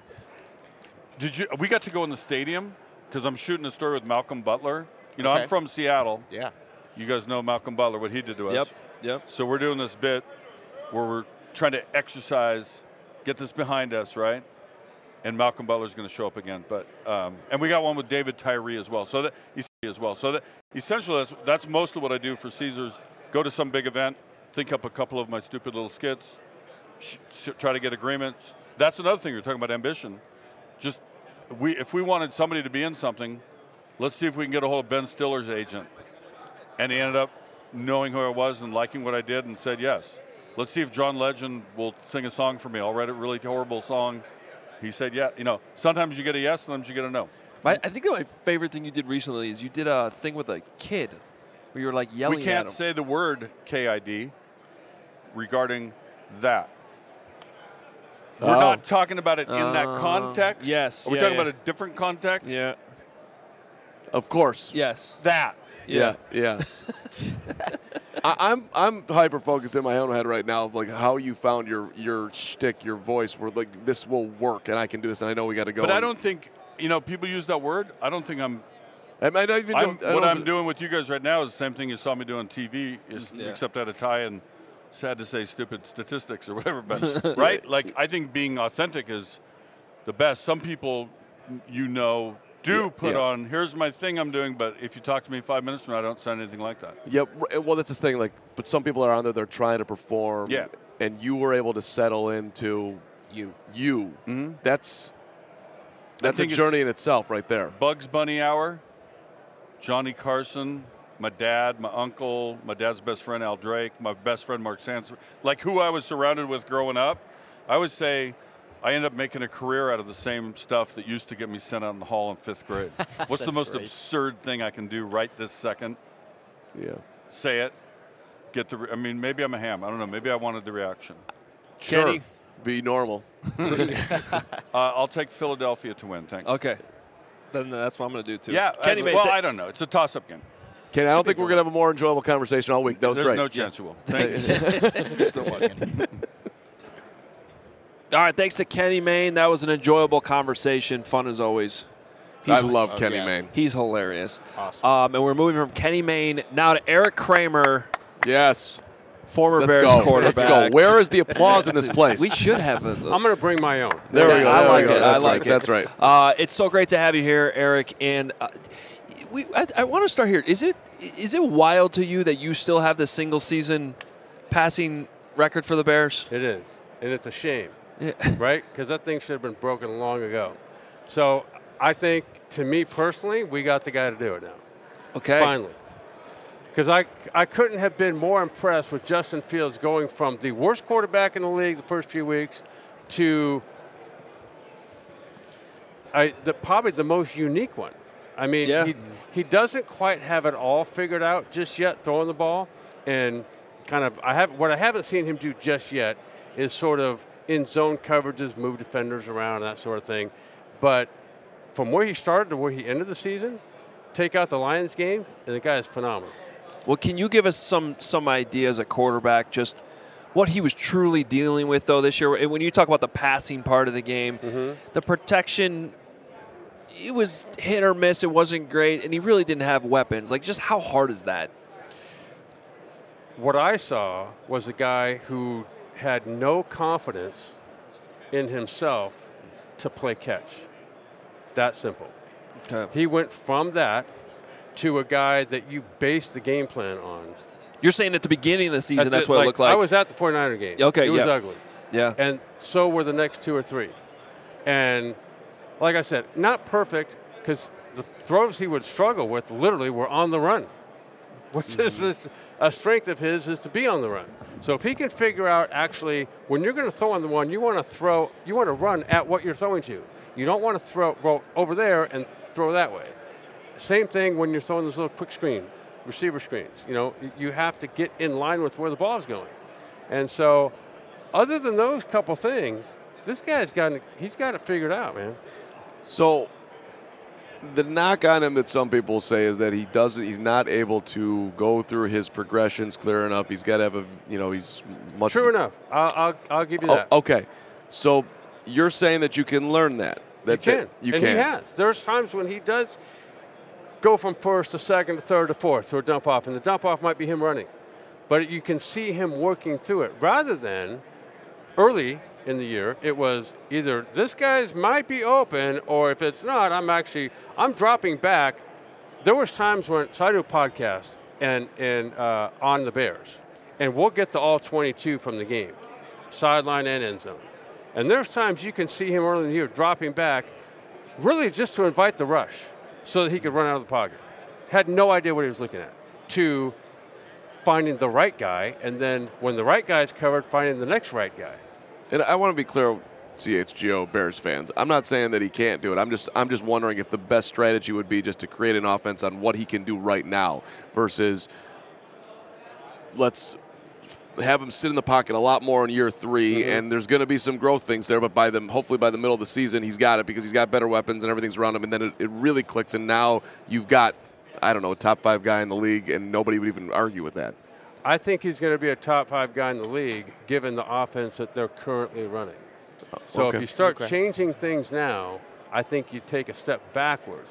We got to go in the stadium because I'm shooting a story with Malcolm Butler. Okay. I'm from Seattle. Yeah. You guys know Malcolm Butler, what he did to us. Yep. So we're doing this bit where we're trying to exercise, get this behind us, right? And Malcolm Butler's going to show up again. But and we got one with David Tyree as well. So that essentially that's mostly what I do for Caesars. Go to some big event, think up a couple of my stupid little skits, try to get agreements. That's another thing. You're talking about ambition. Just if we wanted somebody to be in something, let's see if we can get a hold of Ben Stiller's agent. And he ended up knowing who I was and liking what I did and said yes. Let's see if John Legend will sing a song for me. I'll write a really horrible song. He said, yeah. You know, sometimes you get a yes, sometimes you get a no. I think that my favorite thing you did recently is you did a thing with a kid where you were like yelling at him. We can't say the word KID regarding that. We're not talking about it in that context. Yes. Are we talking about a different context? Yeah. Of course. Yes. That. Yeah. I'm hyper focused in my own head right now of like how you found your shtick, your voice, where like this will work and I can do this and I know we got to go. But I don't think people use that word. I don't think I'm. What I'm doing with you guys right now is the same thing you saw me do on TV, except I had a tie and sad to say stupid statistics or whatever. But right, like I think being authentic is the best. Some people, do put on, here's my thing I'm doing, but if you talk to me 5 minutes from now, I don't sound anything like that. Yeah, well, that's the thing. Like, but some people are on there, they're trying to perform. Yeah. And you were able to settle into you. Mm-hmm. That's a journey in itself right there. Bugs Bunny Hour, Johnny Carson, my dad, my uncle, my dad's best friend, Al Drake, my best friend, Mark Sands. Like who I was surrounded with growing up, I would say I ended up making a career out of the same stuff that used to get me sent out in the hall in 5th grade. What's the most absurd thing I can do right this second? Yeah. Say it. Maybe I'm a ham. I don't know. Maybe I wanted the reaction. Sure. Kenny. Be normal. I'll take Philadelphia to win. Thanks. Okay. Then that's what I'm going to do too. Yeah. Kenny, I don't know. It's a toss-up game. Kenny, I don't think we're going to have a more enjoyable conversation all week. That was There's great. no chance you will. Thank you. Thank you so much. All right, thanks to Kenny Mayne. That was an enjoyable conversation. Fun as always. I love Kenny Mayne. He's hilarious. Awesome. And we're moving from Kenny Mayne now to Eric Kramer, Yes. former Bears quarterback. Let's go. Where is the applause in this place? We should have I'm going to bring my own. There we go. I There like we go. it. That's I right. like it. That's right. It's so great to have you here, Eric. And I want to start here. Is it wild to you that you still have the single season passing record for the Bears? It is, and it's a shame, Yeah. right? Because that thing should have been broken long ago. So I think, to me personally, we got the guy to do it now. Okay. Finally. Because I couldn't have been more impressed with Justin Fields going from the worst quarterback in the league the first few weeks to probably the most unique one. I mean, he doesn't quite have it all figured out just yet, throwing the ball. And what I haven't seen him do just yet is sort of in zone coverages, move defenders around, that sort of thing. But from where he started to where he ended the season, take out the Lions game, and the guy is phenomenal. Well, can you give us some ideas at quarterback, just what he was truly dealing with, though, this year? When you talk about the passing part of the game, the protection, it was hit or miss. It wasn't great, and he really didn't have weapons. Like, just how hard is that? What I saw was a guy who had no confidence in himself to play catch. That simple. Okay. He went from that to a guy that you base the game plan on. You're saying at the beginning of the season, that's what it looked like? I was at the 49er game. Okay, it was ugly. Yeah. And so were the next 2 or 3. And like I said, not perfect, because the throws he would struggle with literally were on the run, which is a strength of his, is to be on the run. So if he can figure out, actually, when you're going to throw on the one, you want to run at what you're throwing to. You don't want to throw over there and throw that way. Same thing when you're throwing those little quick receiver screens. You have to get in line with where the ball is going. And so, other than those couple things, this guy's got it figured out, man. So, the knock on him that some people say is that he's not able to go through his progressions clear enough. He's got to have he's much. True enough. I'll give you that. Okay. So, you're saying that you can learn that. You can. You and can. He has. There's times when he does go from first to second to third to fourth to a dump off, and the dump off might be him running. But you can see him working through it, rather than early in the year, it was either this guy's might be open, or if it's not, I'm dropping back. There was times when, so I do a podcast and on the Bears, and we'll get the all 22 from the game, sideline and end zone. And there's times you can see him early in the year dropping back really just to invite the rush so that he could run out of the pocket. Had no idea what he was looking at, to finding the right guy, and then when the right guy's covered, finding the next right guy. And I want to be clear, CHGO Bears fans, I'm not saying that he can't do it. I'm just wondering if the best strategy would be just to create an offense on what he can do right now versus let's have him sit in the pocket a lot more in year 3, and there's going to be some growth things there, but hopefully by the middle of the season he's got it because he's got better weapons and everything's around him, and then it really clicks, and now you've got, I don't know, a top 5 guy in the league, and nobody would even argue with that. I think he's going to be a top 5 guy in the league given the offense that they're currently running. So if you start changing things now, I think you take a step backward.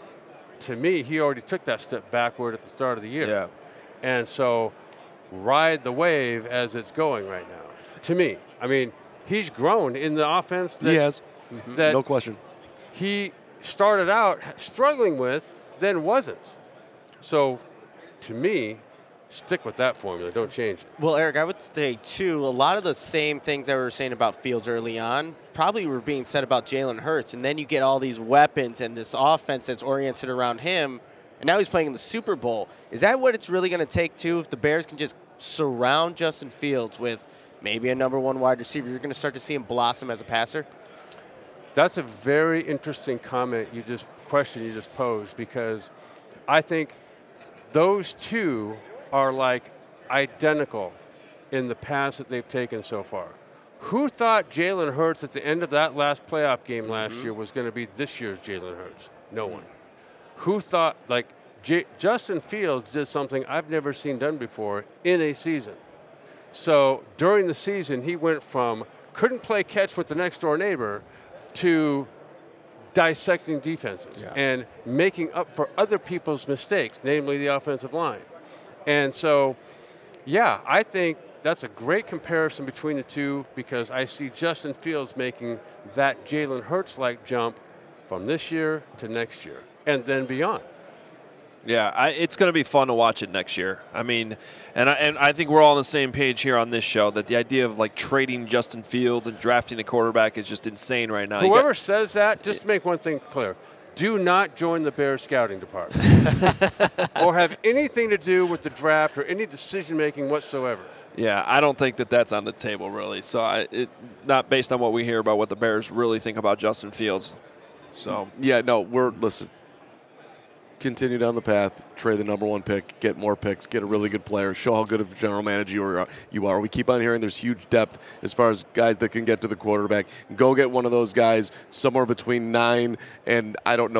To me, he already took that step backward at the start of the year. Yeah. And so ride the wave as it's going right now. To me, I mean, he's grown in the offense that, he has. That no question. He started out struggling with, then wasn't. So to me, stick with that formula. Don't change it. Well, Eric, I would say, too, a lot of the same things that we were saying about Fields early on probably were being said about Jalen Hurts. And then you get all these weapons and this offense that's oriented around him. And now he's playing in the Super Bowl. Is that what it's really going to take, too, if the Bears can just surround Justin Fields with maybe a number 1 wide receiver? You're going to start to see him blossom as a passer? That's a very interesting question you just posed, because I think those two are like identical in the paths that they've taken so far. Who thought Jalen Hurts at the end of that last playoff game last year was going to be this year's Jalen Hurts? No one. Who thought, Justin Fields did something I've never seen done before in a season. So during the season, he went from couldn't play catch with the next door neighbor to dissecting defenses and making up for other people's mistakes, namely the offensive line. And so, I think that's a great comparison between the two, because I see Justin Fields making that Jalen Hurts-like jump from this year to next year and then beyond. Yeah, it's going to be fun to watch it next year. I mean, and I think we're all on the same page here on this show that the idea of trading Justin Fields and drafting a quarterback is just insane right now. Whoever says that, just to make one thing clear, do not join the Bears scouting department or have anything to do with the draft or any decision-making whatsoever. Yeah, I don't think that's on the table, really. So not based on what we hear about what the Bears really think about Justin Fields. So listen, continue down the path, trade the number 1 pick, get more picks, get a really good player, show how good of a general manager you are. We keep on hearing there's huge depth as far as guys that can get to the quarterback. Go get one of those guys somewhere between 9 and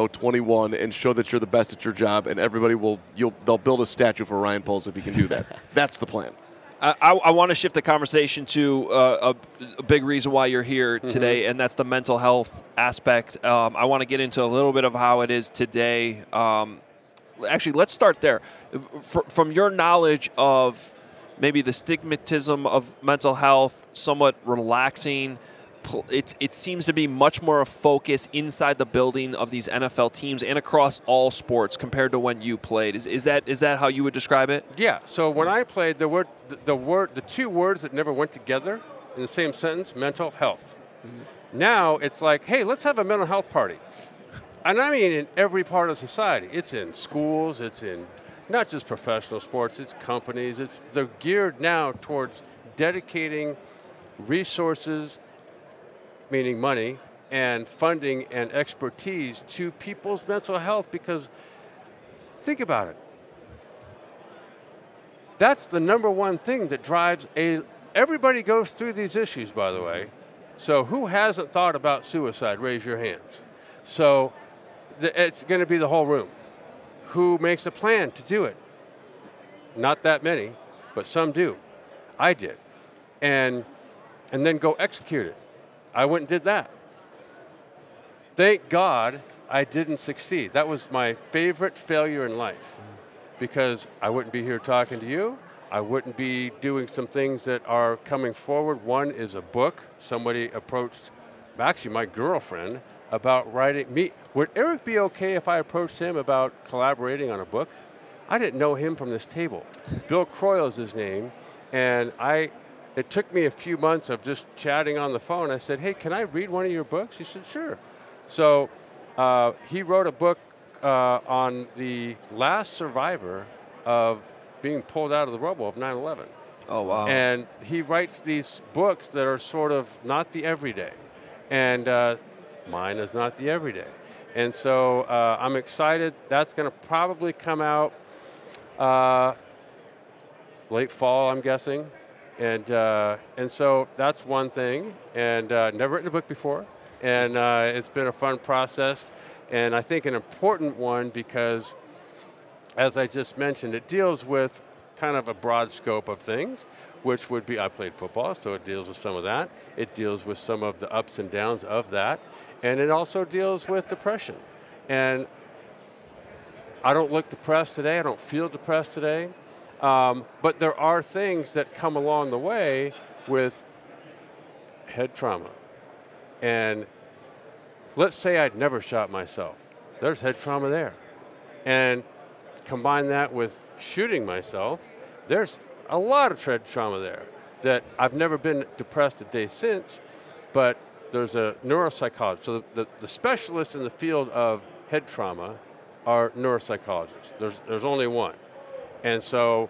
21 and show that you're the best at your job, and everybody they'll build a statue for Ryan Poles if he can do that. That's the plan. I want to shift the conversation to a big reason why you're here today, and that's the mental health aspect. I want to get into a little bit of how it is today. Actually, let's start there. From your knowledge of maybe the stigmatism of mental health, somewhat relaxing, it seems to be much more a focus inside the building of these NFL teams and across all sports compared to when you played. Is that how you would describe it? Yeah. So when I played, there were the 2 words that never went together in the same sentence: mental health. Now it's like, hey, let's have a mental health party. And I mean in every part of society. It's in schools. It's in not just professional sports. It's companies. They're geared now towards dedicating resources, meaning money, and funding and expertise to people's mental health, because think about it. That's the number 1 thing that drives everybody goes through these issues, by the way. So who hasn't thought about suicide? Raise your hands. So it's going to be the whole room. Who makes a plan to do it? Not that many, but some do. I did. And then go execute it. I went and did that. Thank God I didn't succeed. That was my favorite failure in life, because I wouldn't be here talking to you. I wouldn't be doing some things that are coming forward. One is a book. Somebody approached, actually my girlfriend, about writing me. Would Eric be okay if I approached him about collaborating on a book? I didn't know him from this table. Bill Croyle is his name, and it took me a few months of just chatting on the phone. I said, hey, can I read one of your books? He said, sure. So he wrote a book on the last survivor of being pulled out of the rubble of 9/11. Oh, wow. And he writes these books that are sort of not the everyday. And mine is not the everyday. And so I'm excited. That's going to probably come out late fall, I'm guessing. And so that's one thing. And never written a book before. And it's been a fun process. And I think an important one because, as I just mentioned, it deals with kind of a broad scope of things, which would be, I played football, so it deals with some of that. It deals with some of the ups and downs of that. And it also deals with depression. And I don't look depressed today. I don't feel depressed today. But there are things that come along the way with head trauma. And let's say I'd never shot myself. There's head trauma there. And combine that with shooting myself, there's a lot of head trauma there that I've never been depressed a day since, but there's a neuropsychologist. So the specialists in the field of head trauma are neuropsychologists. There's only one. And so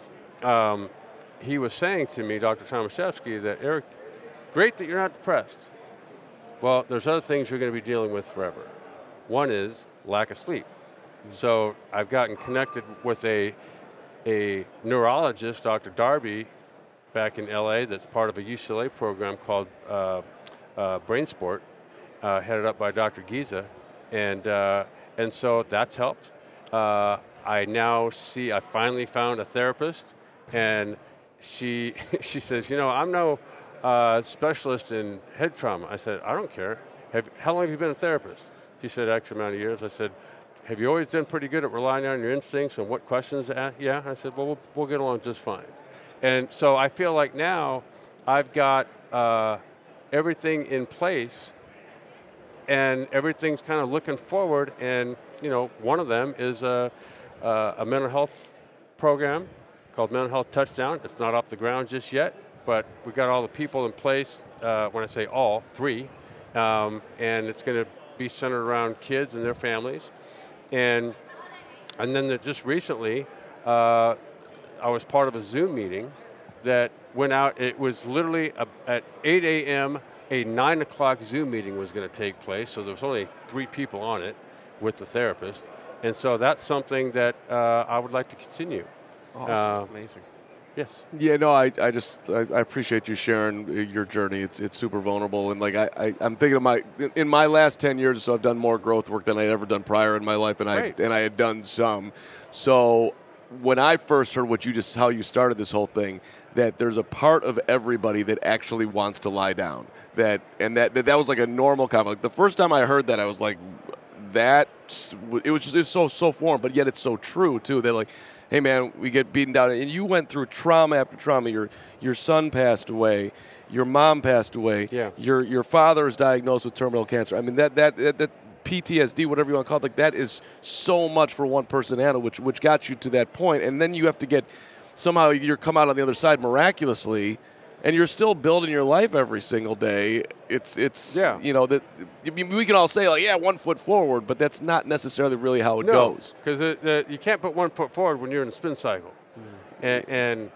he was saying to me, Dr. Tomaszewski, that Eric, great that you're not depressed. Well, there's other things you're going to be dealing with forever. One is lack of sleep. So I've gotten connected with a neurologist, Dr. Darby, back in LA that's part of a UCLA program called Brain Sport, headed up by Dr. Giza. And so that's helped. I finally found a therapist, and she says, I'm no specialist in head trauma. I said, I don't care. How long have you been a therapist? She said, X amount of years. I said, have you always done pretty good at relying on your instincts and what questions to ask? Yeah. I said, well, we'll get along just fine. And so I feel like now I've got everything in place, and everything's kind of looking forward. And, one of them is a mental health program called Mental Health Touchdown. It's not off the ground just yet, but we've got all the people in place, when I say all, 3, and it's going to be centered around kids and their families. And then just recently, I was part of a Zoom meeting that went out. It was literally at 8 a.m., a 9 o'clock Zoom meeting was going to take place, so there was only 3 people on it with the therapist. And so that's something that I would like to continue. Awesome. Amazing. Yes. Yeah, no, I appreciate you sharing your journey. It's super vulnerable, and I'm thinking of in my last 10 years or so, I've done more growth work than I'd ever done prior in my life, and I had done some. So when I first heard how you started this whole thing, that there's a part of everybody that actually wants to lie down, that was like a normal comment. Like the first time I heard that, I was like, it's so foreign, but yet it's so true too. They're like, hey man, we get beaten down, and you went through trauma after trauma. Your son passed away, your mom passed away, yeah. Your father is diagnosed with terminal cancer. I mean that PTSD, whatever you want to call it, like that is so much for one person to handle, which got you to that point, and then you have to somehow you come out on the other side miraculously. And you're still building your life every single day. It's yeah. That we can all say, like, yeah, 1 foot forward, but that's not necessarily really how it goes. Because you can't put 1 foot forward when you're in a spin cycle. And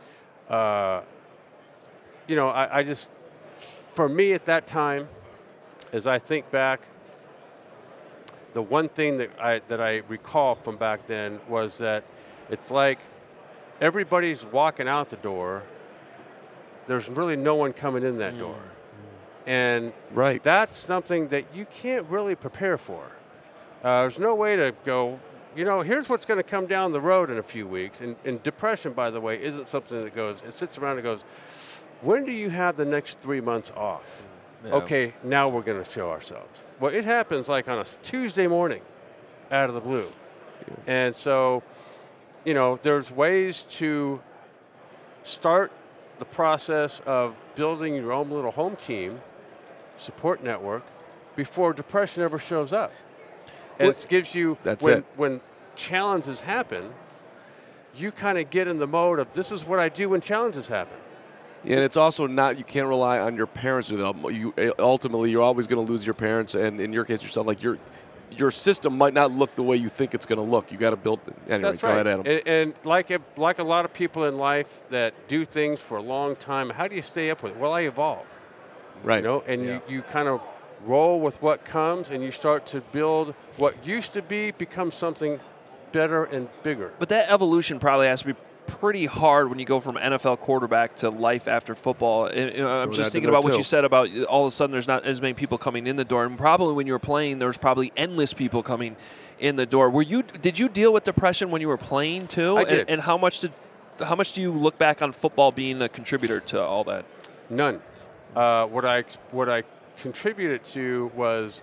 I just, for me at that time, as I think back, the one thing that I recall from back then was that it's like everybody's walking out the door. There's really no one coming in that door. And that's something that you can't really prepare for. There's no way to go, here's what's going to come down the road in a few weeks. And depression, by the way, isn't something that it sits around and goes, when do you have the next 3 months off? Yeah. Okay, now we're going to show ourselves. Well, it happens like on a Tuesday morning out of the blue. Yeah. And so, there's ways to start the process of building your own little home team, support network, before depression ever shows up. And it gives you, when challenges happen, you kind of get in the mode of, this is what I do when challenges happen. Yeah, and it's also you can't rely on your parents. Ultimately, you're always going to lose your parents, and in your case, yourself. Like your system might not look the way you think it's going to look. You got to build it. Anyway, That's go right. ahead, Adam. And like a lot of people in life that do things for a long time, how do you stay up with it? Well, I evolve. Right. And you kind of roll with what comes, and you start to build what used to be becomes something better and bigger. But that evolution probably has to be pretty hard when you go from NFL quarterback to life after football. I'm just thinking about what you said about all of a sudden there's not as many people coming in the door, and probably when you were playing, there was probably endless people coming in the door. Did you deal with depression when you were playing too? I did. And how much do you look back on football being a contributor to all that? None. What I contributed to was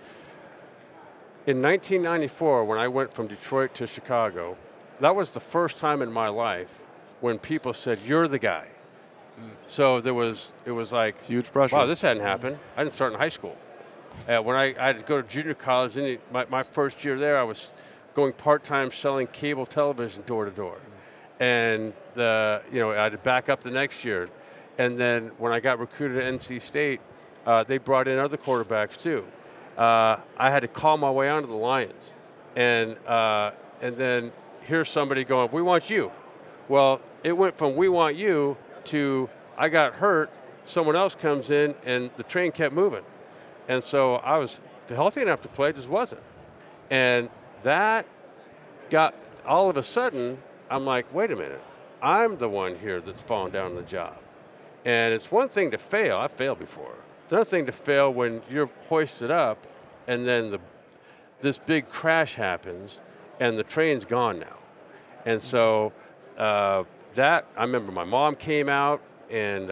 in 1994 when I went from Detroit to Chicago. That was the first time in my life when people said, "You're the guy." So it was like huge pressure. Wow, this hadn't happened. I didn't start in high school. When I had to go to junior college, my first year there, I was going part-time selling cable television door to door, and I had to back up the next year. And then when I got recruited at NC State, they brought in other quarterbacks too. I had to call my way onto the Lions, and then here's somebody going, "We want you." Well, it went from "we want you" to I got hurt, someone else comes in, and the train kept moving. And so I was healthy enough to play, just wasn't. And that got, all of a sudden, I'm like, wait a minute, I'm the one here that's fallen down on the job. And it's one thing to fail, I've failed before. It's another thing to fail when you're hoisted up and then this big crash happens and the train's gone now. And so I remember my mom came out and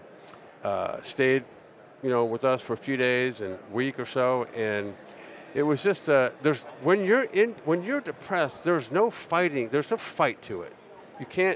stayed, with us for a few days and a week or so, and it was just when you're depressed, there's no fighting, there's no fight to it. You can't.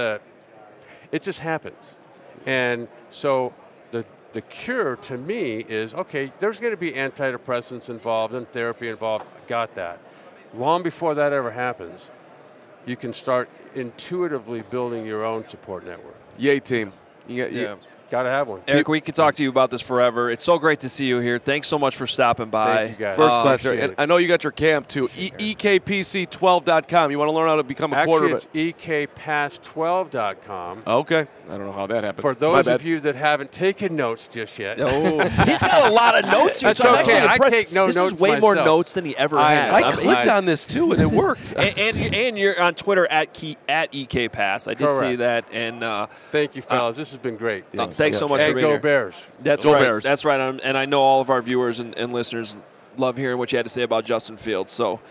It just happens, and so the cure to me is okay. There's going to be antidepressants involved and therapy involved. Got that. Long before that ever happens, you can start intuitively building your own support network. Yay, team. Got to have one. Eric, we could talk to you about this forever. It's so great to see you here. Thanks so much for stopping by. Thank you, guys. First class. And I know you got your camp, too. EKPC12.com. You want to learn how to become a quarterback? Actually, it's EKPass12.com. Okay. I don't know how that happened. For those of you that haven't taken notes just yet. Oh, he's got a lot of notes here. That's okay. I take no notes notes This is way myself. more notes than he ever has. I clicked on this, too, and it worked. and you're on Twitter at EKPass. I did see that. And thank you, fellas. This has been great. Thanks so much for being here. here. Bears. That's Go right. Bears. That's right. And I know all of our viewers and listeners love hearing what you had to say about Justin Fields. So,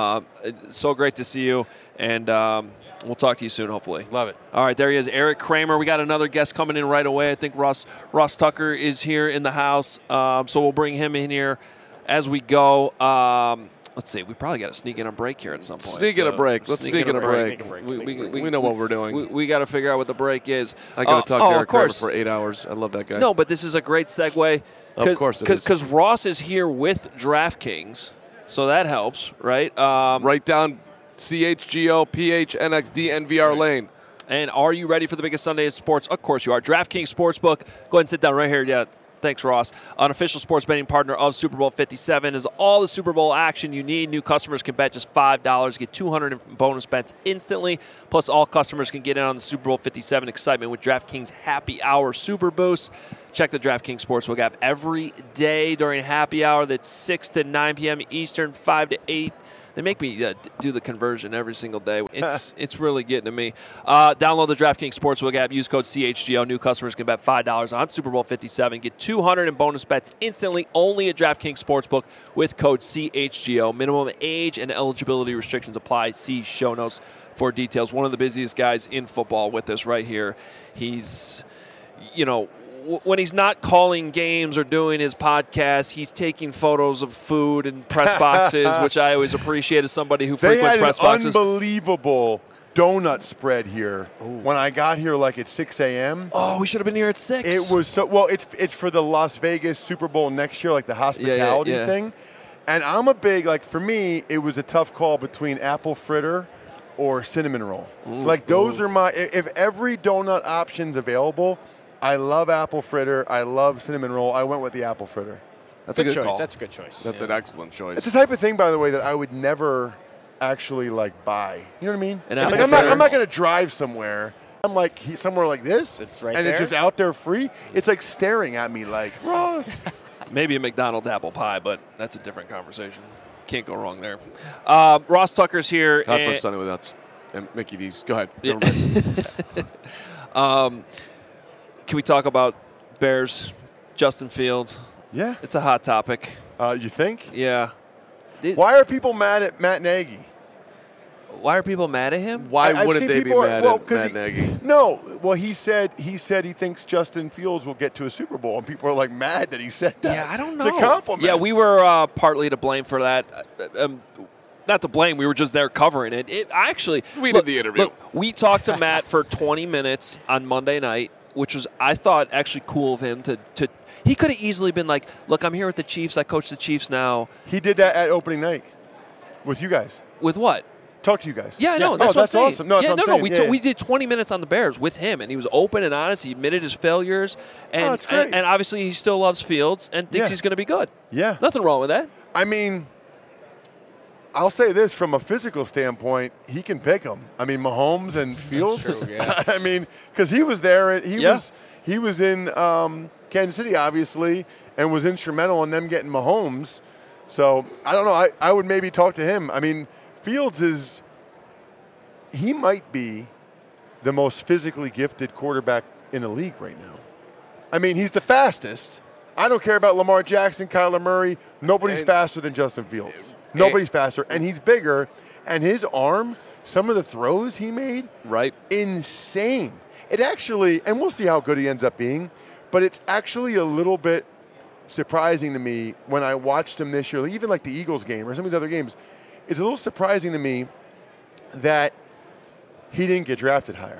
so great to see you. And we'll talk to you soon, hopefully. Love it. All right, there he is, Eric Kramer. We got another guest coming in right away. I think Ross Tucker is here in the house. So we'll bring him in here as we go. Let's see. We probably got to sneak in a break here at some point. Sneak in a break. Let's sneak in a break. We We know what we're doing. We got to figure out what the break is. I got to talk to Eric Kramer course. for 8 hours. I love that guy. No, but this is a great segue. Of course it is. Because Ross is here with DraftKings, so that helps, right? Write down CHGO, PHNX, DNVR lane. And are you ready for the biggest Sunday in sports? Of course you are. DraftKings Sportsbook. Go ahead and sit down right here. Yeah. Thanks, Ross. An official sports betting partner of Super Bowl 57 is all the Super Bowl action you need. New customers can bet just $5, get 200 in bonus bets instantly. Plus, all customers can get in on the Super Bowl 57 excitement with DraftKings Happy Hour Super Boost. Check the DraftKings Sportsbook app every day during happy hour. That's 6 to 9 p.m. Eastern, 5 to 8. They make me do the conversion every single day. It's really getting to me. Download the DraftKings Sportsbook app. Use code CHGO. New customers can bet $5 on Super Bowl 57. Get 200 in bonus bets instantly only at DraftKings Sportsbook with code CHGO. Minimum age and eligibility restrictions apply. See show notes for details. One of the busiest guys in football with us right here. He's, when he's not calling games or doing his podcast, he's taking photos of food and press boxes, which I always appreciate as somebody who frequents press boxes. They had an unbelievable donut spread here when I got here, like at 6 a.m. Oh, we should have been here at 6. It was so well. It's for the Las Vegas Super Bowl next year, like the hospitality thing. And I'm a big for me, it was a tough call between apple fritter or cinnamon roll. Those are my. If every donut option's available. I love apple fritter. I love cinnamon roll. I went with the apple fritter. That's a good call. That's a good choice. That's an excellent choice. It's the type of thing, by the way, that I would never actually buy. You know what I mean? And I'm not going to drive somewhere. I'm somewhere like this, it's right and there. It's just out there free. It's like staring at me like, Ross. Maybe a McDonald's apple pie, but that's a different conversation. Can't go wrong there. Ross Tucker's here. Hot for Sunday with nuts. And Mickey D's. Go ahead. Yeah. Can we talk about Bears, Justin Fields? Yeah. It's a hot topic. You think? Yeah. Why are people mad at Matt Nagy? Why are people mad at him? Why wouldn't they be mad at Matt Nagy? No. Well, he said he thinks Justin Fields will get to a Super Bowl, and people are mad that he said that. Yeah, I don't know. It's a compliment. Yeah, we were partly to blame for that. Not to blame. We were just there covering it. We did the interview. Look, we talked to Matt for 20 minutes on Monday night, which was, I thought, actually cool of him to he could have easily been like, look, I'm here with the Chiefs. I coach the Chiefs now. He did that at opening night with you guys. With what? Talk to you guys. Yeah, no, that's what I'm saying. Awesome. No, that's what I'm saying. We did 20 minutes on the Bears with him, and he was open and honest. He admitted his failures, and that's great. And obviously he still loves Fields and thinks he's going to be good. Yeah, nothing wrong with that. I mean, I'll say this from a physical standpoint, he can pick them. I mean, Mahomes and Fields. That's true, yeah. I mean, because he was there. He was in Kansas City, obviously, and was instrumental in them getting Mahomes. So I don't know. I would maybe talk to him. I mean, Fields he might be the most physically gifted quarterback in the league right now. I mean, he's the fastest. I don't care about Lamar Jackson, Kyler Murray. Nobody's faster than Justin Fields. Nobody's faster. And he's bigger. And his arm, some of the throws he made, insane. It actually, and we'll see how good he ends up being, but it's actually a little bit surprising to me when I watched him this year, even like the Eagles game or some of these other games. It's a little surprising to me that he didn't get drafted higher.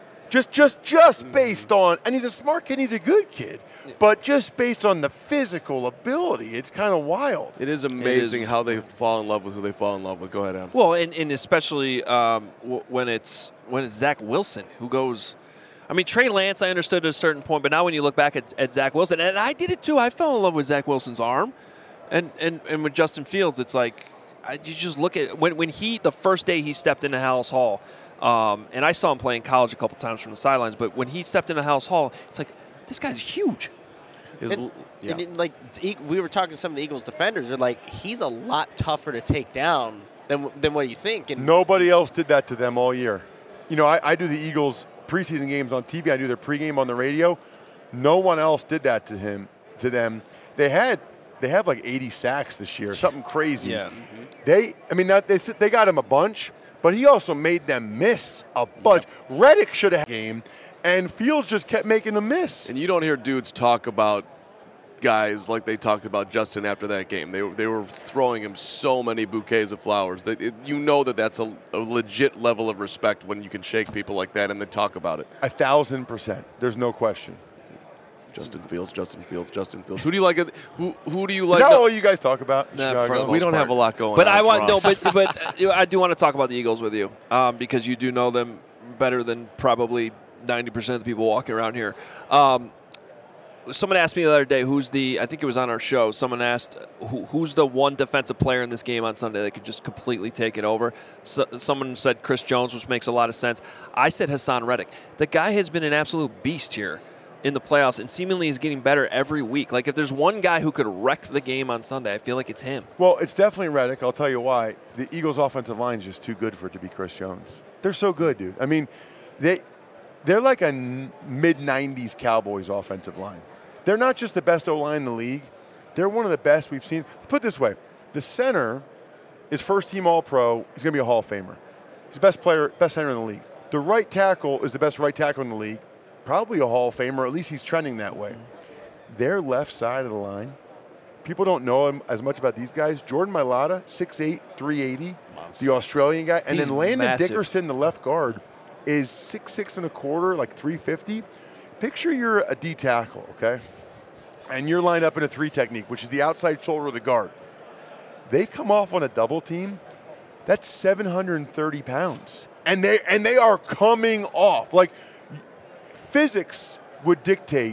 Just based on, and he's a smart kid, he's a good kid, but just based on the physical ability, it's kind of wild. It is amazing how they fall in love with who they fall in love with. Go ahead, Adam. Well, and especially when it's Zach Wilson who goes. I mean, Trey Lance, I understood at a certain point, but now when you look back at Zach Wilson, and I did it too, I fell in love with Zach Wilson's arm, and with Justin Fields, it's like you just look at when the first day he stepped into Hallis Hall. And I saw him play in college a couple times from the sidelines, but when he stepped into Hallis Hall, it's like, this guy's huge. And we were talking to some of the Eagles defenders. They're like, he's a lot tougher to take down than what you think. And nobody else did that to them all year. You know, I do the Eagles preseason games on TV. I do their pregame on the radio. No one else did that to them. They have like 80 sacks this year, something crazy. Yeah. They got him a bunch. But he also made them miss a bunch. Yep. Reddick should have had a game, and Fields just kept making them miss. And you don't hear dudes talk about guys like they talked about Justin after that game. They were throwing him so many bouquets of flowers. You know that's a legit level of respect when you can shake people like that and then talk about it. 1,000%. There's no question. Justin Fields. Who do you like? Who do you like? Is that all you guys talk about? Nah, we don't have a lot going on. But I do want to talk about the Eagles with you because you do know them better than probably 90% of the people walking around here. Someone asked me the other day, I think it was on our show, someone asked who's the one defensive player in this game on Sunday that could just completely take it over. So, someone said Chris Jones, which makes a lot of sense. I said Hassan Reddick. The guy has been an absolute beast here in the playoffs and seemingly is getting better every week. Like, if there's one guy who could wreck the game on Sunday, I feel like it's him. Well, it's definitely Reddick. I'll tell you why. The Eagles' offensive line is just too good for it to be Chris Jones. They're so good, dude. I mean, they're like a mid-'90s Cowboys offensive line. They're not just the best O-line in the league. They're one of the best we've seen. Put it this way. The center is first-team All-Pro. He's going to be a Hall of Famer. He's the best center in the league. The right tackle is the best right tackle in the league. Probably a Hall of Famer, at least he's trending that way. Their left side of the line, people don't know as much about these guys. Jordan Mailata, 6'8", 380, Monster. The Australian guy. And then Landon massive. Dickerson, the left guard, is 6'6" and a quarter, like 350. Picture you're a D tackle, okay? And you're lined up in a 3 technique, which is the outside shoulder of the guard. They come off on a double team. That's 730 pounds. And they are coming off. Like, physics would dictate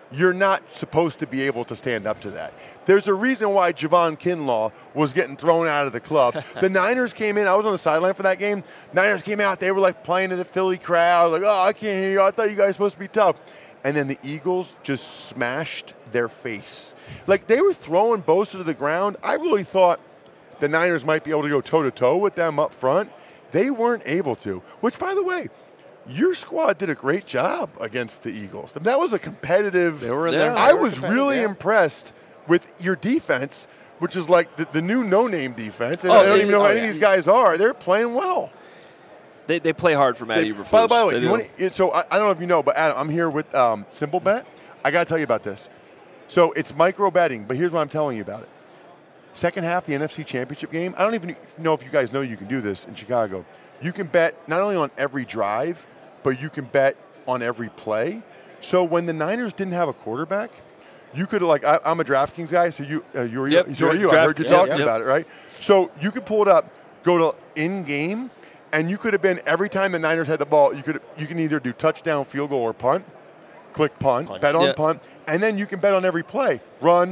you're not supposed to be able to stand up to that. There's a reason why Javon Kinlaw was getting thrown out of the club. The Niners came in. I was on the sideline for that game. Niners came out. They were like playing to the Philly crowd. Like, oh, I can't hear you. I thought you guys were supposed to be tough. And then the Eagles just smashed their face. Like, they were throwing Bosa to the ground. I really thought the Niners might be able to go toe-to-toe with them up front. They weren't able to, which, by the way, your squad did a great job against the Eagles. That was a competitive. They were in there. I was really impressed with your defense, which is like the new no-name defense. And I don't even know who any of these guys are. They're playing well. They play hard for Matt Eberflus. By the way, so I don't know if you know, but Adam, I'm here with Simple Bet. I got to tell you about this. So it's micro betting, but here's what I'm telling you about it. Second half, the NFC Championship game. I don't even know if you guys know you can do this in Chicago. You can bet not only on every drive, but you can bet on every play. So when the Niners didn't have a quarterback, you could I'm a DraftKings guy, so you. I heard you talking about it, right? So you could pull it up, go to in-game, and you could have been every time the Niners had the ball, you can either do touchdown, field goal, or punt. Click punt. Bet on punt, and then you can bet on every play. Run.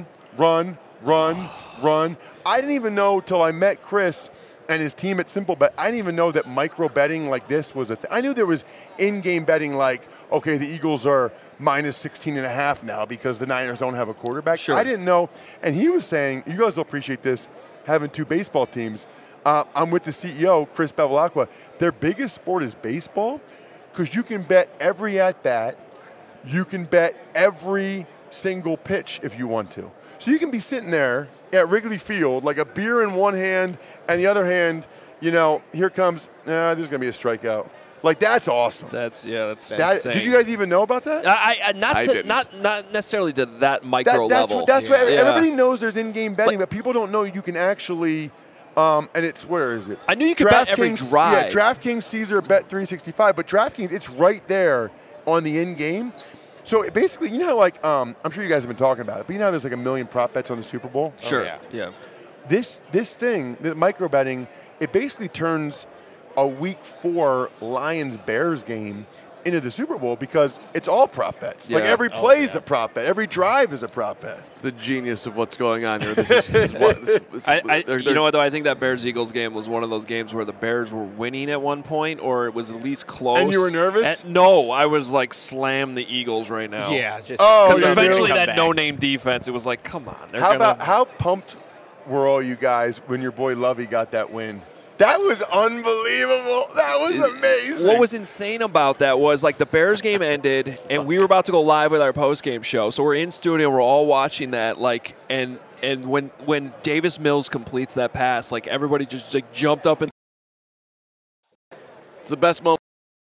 I didn't even know till I met Chris and his team at Simple Bet. I didn't even know that micro betting like this was a thing. I knew there was in-game betting like, okay, the Eagles are minus 16.5 now because the Niners don't have a quarterback. Sure. I didn't know. And he was saying, you guys will appreciate this, having two baseball teams. I'm with the CEO, Chris Bevilacqua. Their biggest sport is baseball because you can bet every at-bat. You can bet every single pitch if you want to. So you can be sitting there at Wrigley Field, like a beer in one hand, and the other hand, here comes, this is going to be a strikeout. Like, that's awesome. That's insane. Did you guys even know about that? Not necessarily to that micro level. That's what everybody knows. There's in-game betting, but people don't know you can actually. And it's, where is it? I knew you could bet every drive. Yeah, DraftKings, Caesar, Bet365, but DraftKings, it's right there on the in-game. So basically, you know how I'm sure you guys have been talking about it, but you know how there's like a million prop bets on the Super Bowl? Sure. Yeah. This thing, the micro betting, it basically turns a Week 4 Lions-Bears game into the Super Bowl because it's all prop bets. Yeah. Like every play is a prop bet. Every drive is a prop bet. It's the genius of what's going on here. This is what. You know what, though? I think that Bears-Eagles game was one of those games where the Bears were winning at one point, or it was at least close. And you were nervous? No, I was like, slam the Eagles right now. Yeah, just because eventually that no-name defense, it was like, come on. How pumped were all you guys when your boy Lovey got that win? That was unbelievable. That was amazing. What was insane about that was, like, the Bears game ended, and we were about to go live with our post-game show. So we're in studio, we're all watching that, like, and when Davis Mills completes that pass, like, everybody just like jumped up and. It's the best moment.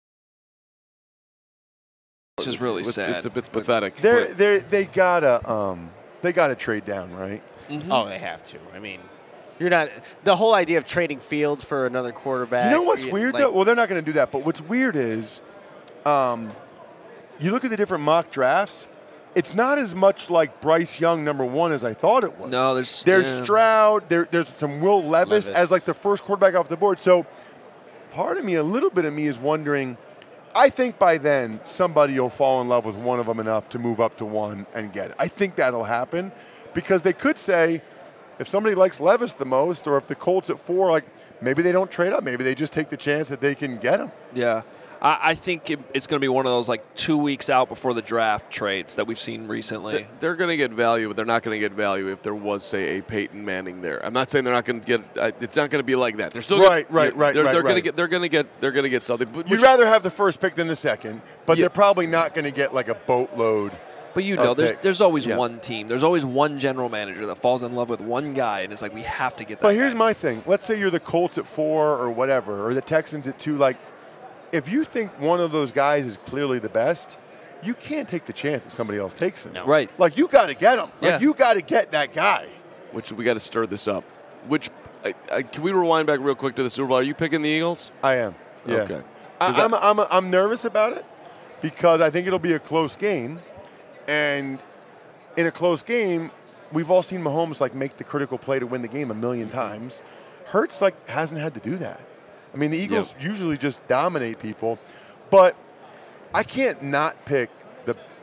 Which is really sad. It's pathetic. They gotta trade down, right? Mm-hmm. Oh, they have to. I mean. You're not the whole idea of trading Fields for another quarterback. You know what's weird though? Well, they're not going to do that. But what's weird is, you look at the different mock drafts. It's not as much like Bryce Young #1 as I thought it was. No, there's Stroud. There's some Will Levis as like the first quarterback off the board. So, part of me, a little bit of me, is wondering. I think by then somebody will fall in love with one of them enough to move up to one and get it. I think that'll happen because they could say. If somebody likes Levis the most, or if the Colts at 4, like maybe they don't trade up, maybe they just take the chance that they can get him. Yeah, I think it's going to be one of those like 2 weeks out before the draft trades that we've seen recently. They're going to get value, but they're not going to get value if there was, say, a Peyton Manning there. I'm not saying they're not going to get. It's not going to be like that. They're still right. They're going to get something. You'd rather have the first pick than the second, but they're probably not going to get like a boatload. But there's always one team. There's always one general manager that falls in love with one guy, and it's like, we have to get that. But here's my thing. Let's say you're the Colts at 4 or whatever, or the Texans at 2. Like, if you think one of those guys is clearly the best, you can't take the chance that somebody else takes him. No. Right. Like, you got to get him. Like, you got to get that guy. Which we got to stir this up. Can we rewind back real quick to the Super Bowl? Are you picking the Eagles? I am. Yeah. Okay. I'm nervous about it because I think it'll be a close game. And in a close game, we've all seen Mahomes make the critical play to win the game a million times. Hurts hasn't had to do that. I mean, the Eagles usually just dominate people, but I can't not pick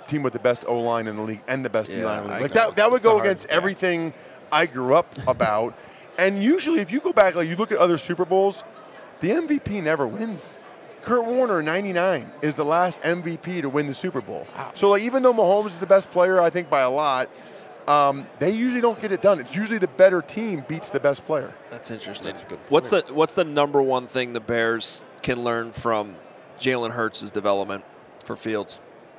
team with the best O-line in the league and the best D-line in the league. Like know. that would It's a go hard against gap. everything I grew up about. And usually if you go back, like you look at other Super Bowls, the MVP never wins. Kurt Warner, 99, is the last MVP to win the Super Bowl. Wow. So like, even though Mahomes is the best player, I think by a lot, they usually don't get it done. It's usually the better team beats the best player. That's interesting. That's a good point. What's the number one thing the Bears can learn from Jalen Hurts' development for Fields?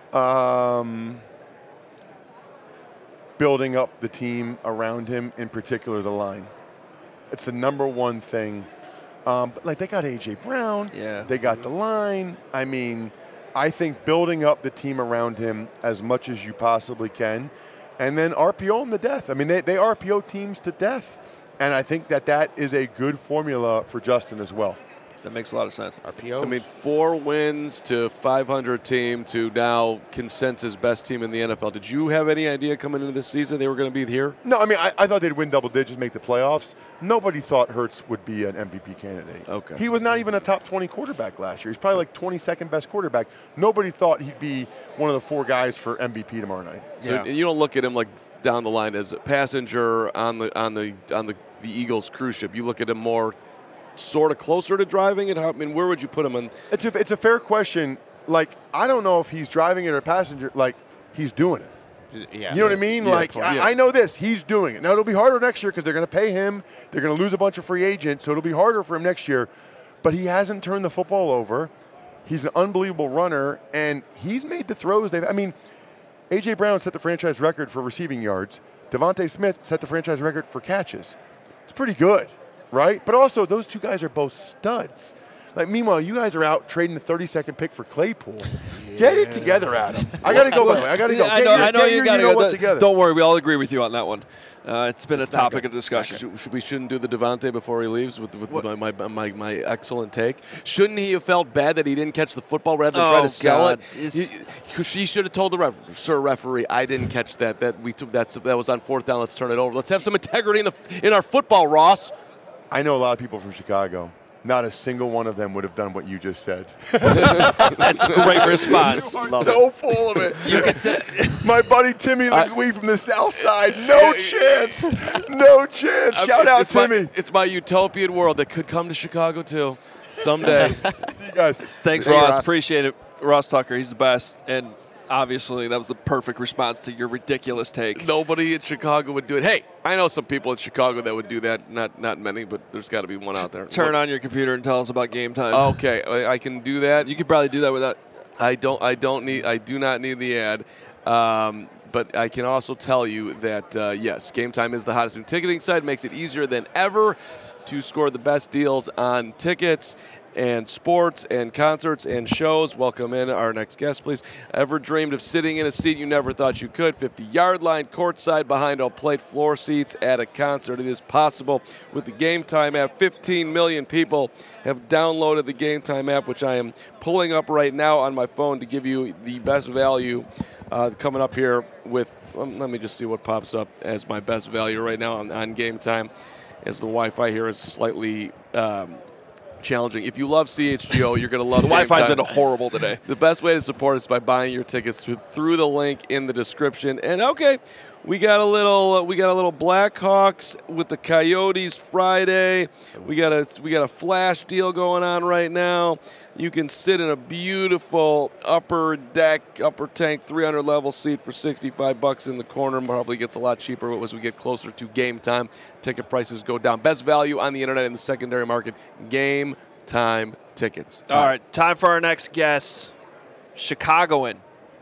Building up the team around him, in particular the line. It's the number one thing. But like they got A.J. Brown. Yeah. They got the line. I mean, I think building up the team around him as much as you possibly can, and then RPO them to death. I mean, they RPO teams to death. And I think that is a good formula for Justin as well. That makes a lot of sense. RPO. I mean, 4 wins to 500 team to now consensus best team in the NFL. Did you have any idea coming into this season they were going to be here? No, I mean, I thought they'd win double digits, make the playoffs. Nobody thought Hurts would be an MVP candidate. Okay. He was not even a top 20 quarterback last year. He's probably like 22nd best quarterback. Nobody thought he'd be one of the 4 guys for MVP tomorrow night. So you don't look at him like down the line as a passenger on the Eagles cruise ship. You look at him more sort of closer to driving it? I mean, where would you put him on? It's a fair question. Like, I don't know if he's driving it or passenger. Like, he's doing it. Yeah. You know what I mean? Yeah, like, I know this. He's doing it. Now, it'll be harder next year because they're going to pay him. They're going to lose a bunch of free agents, so it'll be harder for him next year. But he hasn't turned the football over. He's an unbelievable runner, and he's made the throws. I mean, A.J. Brown set the franchise record for receiving yards. Devontae Smith set the franchise record for catches. It's pretty good. Right? But also, those 2 guys are both studs. Like, meanwhile, you guys are out trading the 32nd pick for Claypool. Get it together, Adam. I got to go, by the way. I got to go. I know you got to go. Together. Don't worry. We all agree with you on that one. It's been a topic of discussion. We shouldn't do the Devontae before he leaves with my excellent take. Shouldn't he have felt bad that he didn't catch the football rather than try to sell it? He should have told the referee, I didn't catch that. That was on 4th down. Let's turn it over. Let's have some integrity in our football, Ross. I know a lot of people from Chicago. Not a single one of them would have done what you just said. That's a great response. You are so full of it. You can say, my buddy Timmy Legui from the South Side. No chance. No chance. Shout out Timmy. It's my utopian world that could come to Chicago too someday. See you guys. Thanks, Ross. Appreciate it. Ross Tucker, he's the best. And obviously, that was the perfect response to your ridiculous take. Nobody in Chicago would do it. Hey, I know some people in Chicago that would do that. Not many, but there's got to be one out there. Turn on your computer and tell us about Game Time. Okay, I can do that. You could probably do that without. I do not need the ad. But I can also tell you that yes, Game Time is the hottest new ticketing site. Makes it easier than ever to score the best deals on tickets and sports and concerts and shows. Welcome in our next guest, please. Ever dreamed of sitting in a seat you never thought you could? 50-yard line, courtside, behind all plate, floor seats at a concert. It is possible with the Game Time app. 15 million people have downloaded the Game Time app, which I am pulling up right now on my phone to give you the best value coming up here with, let me just see what pops up as my best value right now on Game Time, as the Wi-Fi here is slightly challenging. If you love CHGO, you're going to love the Wi-Fi's been horrible today. The best way to support us is by buying your tickets through the link in the description. And okay, we got a little Blackhawks with the Coyotes Friday. We got a flash deal going on right now. You can sit in a beautiful upper tank 300 level seat for $65 in the corner. Probably gets a lot cheaper as we get closer to game time. Ticket prices go down. Best value on the internet in the secondary market. Game Time tickets. All right, time for our next guest, Chicagoan,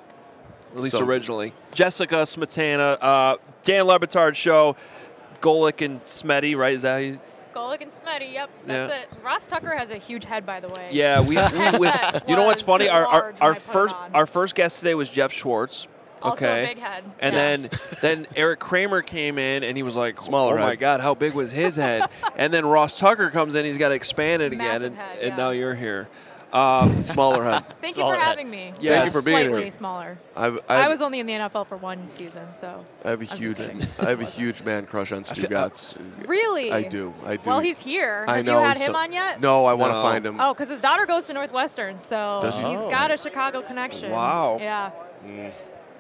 at least originally. Jessica Smetana, Dan Le Batard show, Golic and Smetty, right? Is that how you? Golic and Smetty, yep, that's it. Ross Tucker has a huge head, by the way. Yeah, we you know what's funny? Our first guest today was Jeff Schwartz. Also Okay. a big head. And then Eric Kramer came in, and he was like, Smaller oh, my head. God, how big was his head? And then Ross Tucker comes in, he's got to expand it again, Massive head, and yeah. now you're here. Smaller head. Thank you for having me. Yeah. Thank you for being Slightly here. smaller. I was only in the NFL for 1 season, so. I have a I'm huge, just kidding. I have a huge man crush on Stu Gatz. Really? I do. Well, he's here. I Have know. you had him on yet? No, I want to No. find him. Oh, because his daughter goes to Northwestern, so Does he? he's got a Chicago connection. Wow. Yeah.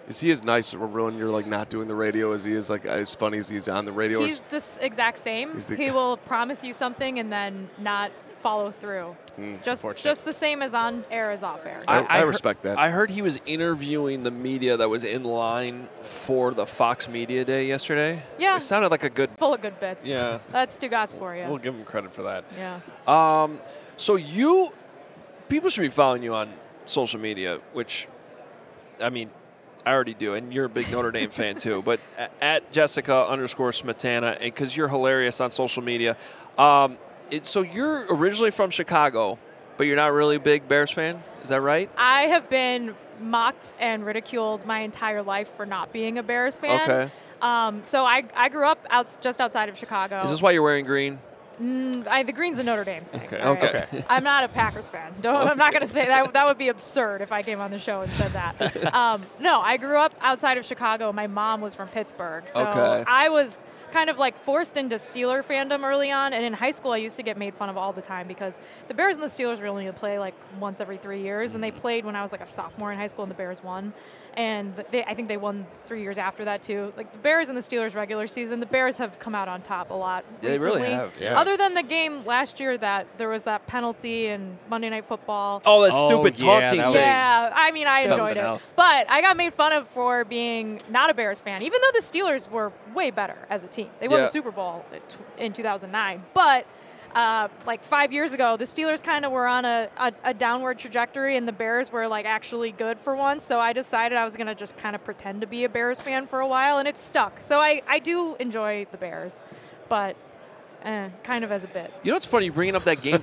Is he as nice when you're like not doing the radio as he is like as funny as he's on the radio? He's the exact same. He will promise you something and then not follow through. Just the same as on air as off air. I respect that. I heard he was interviewing the media that was in line for the Fox Media Day yesterday. Yeah. It sounded like a good... Full of good bits. Yeah. That's Stugotz for you. We'll give him credit for that. Yeah. So people should be following you on social media, which, I mean, I already do, and you're a big Notre Dame fan too, but at Jessica_Smetana, because you're hilarious on social media. So you're originally from Chicago, but you're not really a big Bears fan? Is that right? I have been mocked and ridiculed my entire life for not being a Bears fan. Okay. So I grew up just outside of Chicago. Is this why you're wearing green? The green's a Notre Dame thing. Okay. I'm not a Packers fan. I'm not going to say that. That would be absurd if I came on the show and said that. No, I grew up outside of Chicago. My mom was from Pittsburgh. So I was kind of like forced into Steeler fandom early on. And in high school, I used to get made fun of all the time because the Bears and the Steelers were only going to play like once every 3 years. And they played when I was like a sophomore in high school and the Bears won. And I think they won 3 years after that, too. Like, the Bears and the Steelers regular season, the Bears have come out on top a lot recently. They really have, yeah. Other than the game last year that there was that penalty in Monday Night Football. Oh, that stupid taunting thing. Yeah, I mean, I enjoyed it. Else. But I got made fun of for being not a Bears fan, even though the Steelers were way better as a team. They won the Super Bowl in 2009. But... like 5 years ago, the Steelers kind of were on a downward trajectory, and the Bears were like actually good for once. So I decided I was going to just kind of pretend to be a Bears fan for a while, and it stuck. So I do enjoy the Bears, but kind of as a bit. You know what's funny? You're bringing up that game.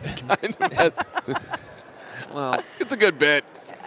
Well, it's a good bit.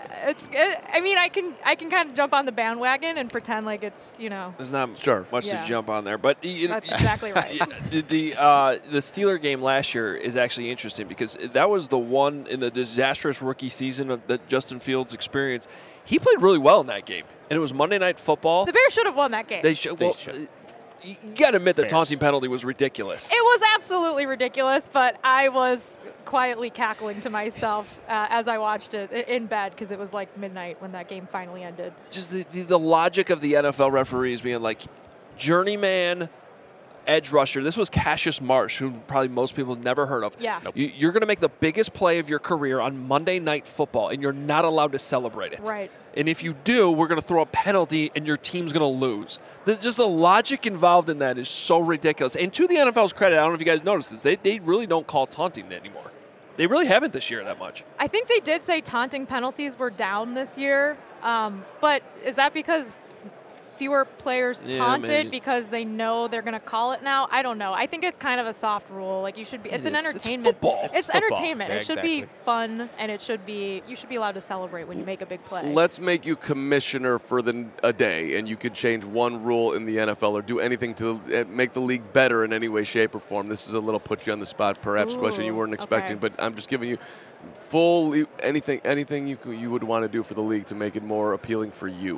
I mean, I can kind of jump on the bandwagon and pretend like it's, There's not much to jump on there, but that's exactly right. The Steeler game last year is actually interesting because that was the one in the disastrous rookie season that Justin Fields experienced. He played really well in that game, and it was Monday Night Football. The Bears should have won that game. They should. You got to admit the taunting penalty was ridiculous. It was absolutely ridiculous, but I was quietly cackling to myself as I watched it in bed because it was like midnight when that game finally ended. Just the logic of the NFL referees being like, journeyman edge rusher. This was Cassius Marsh, who probably most people have never heard of. Yeah. Nope. You're going to make the biggest play of your career on Monday Night Football, and you're not allowed to celebrate it. Right. And if you do, we're going to throw a penalty, and your team's going to lose. Just the logic involved in that is so ridiculous. And to the NFL's credit, I don't know if you guys noticed this, they really don't call taunting anymore. They really haven't this year that much. I think they did say taunting penalties were down this year, but is that because fewer players taunted because they know they're going to call it now? I don't know. I think it's kind of a soft rule. Like, you should be. It's an entertainment. It's football. It's entertainment. Yeah, it should be fun, and you should be allowed to celebrate when you make a big play. Let's make you commissioner for a day, and you could change one rule in the NFL or do anything to make the league better in any way, shape, or form. This is a little put you on the spot, perhaps question you weren't expecting, but I'm just giving you full anything you would want to do for the league to make it more appealing for you.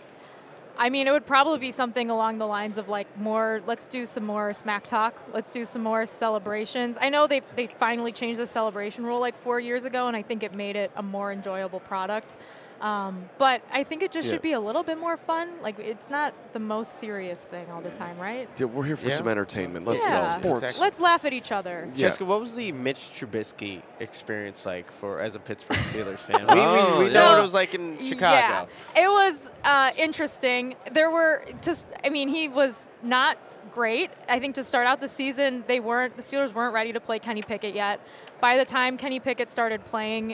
I mean, it would probably be something along the lines of like let's do some more smack talk. Let's do some more celebrations. I know they finally changed the celebration rule like 4 years ago, and I think it made it a more enjoyable product. But I think it just should be a little bit more fun. Like, it's not the most serious thing all the time, right? Yeah, we're here for some entertainment. Let's go. Sports. Exactly. Let's laugh at each other. Jessica, what was the Mitch Trubisky experience like as a Pittsburgh Steelers fan? We know what it was like in Chicago. Yeah, it was interesting. He was not great. I think to start out the season, the Steelers weren't ready to play Kenny Pickett yet. By the time Kenny Pickett started playing,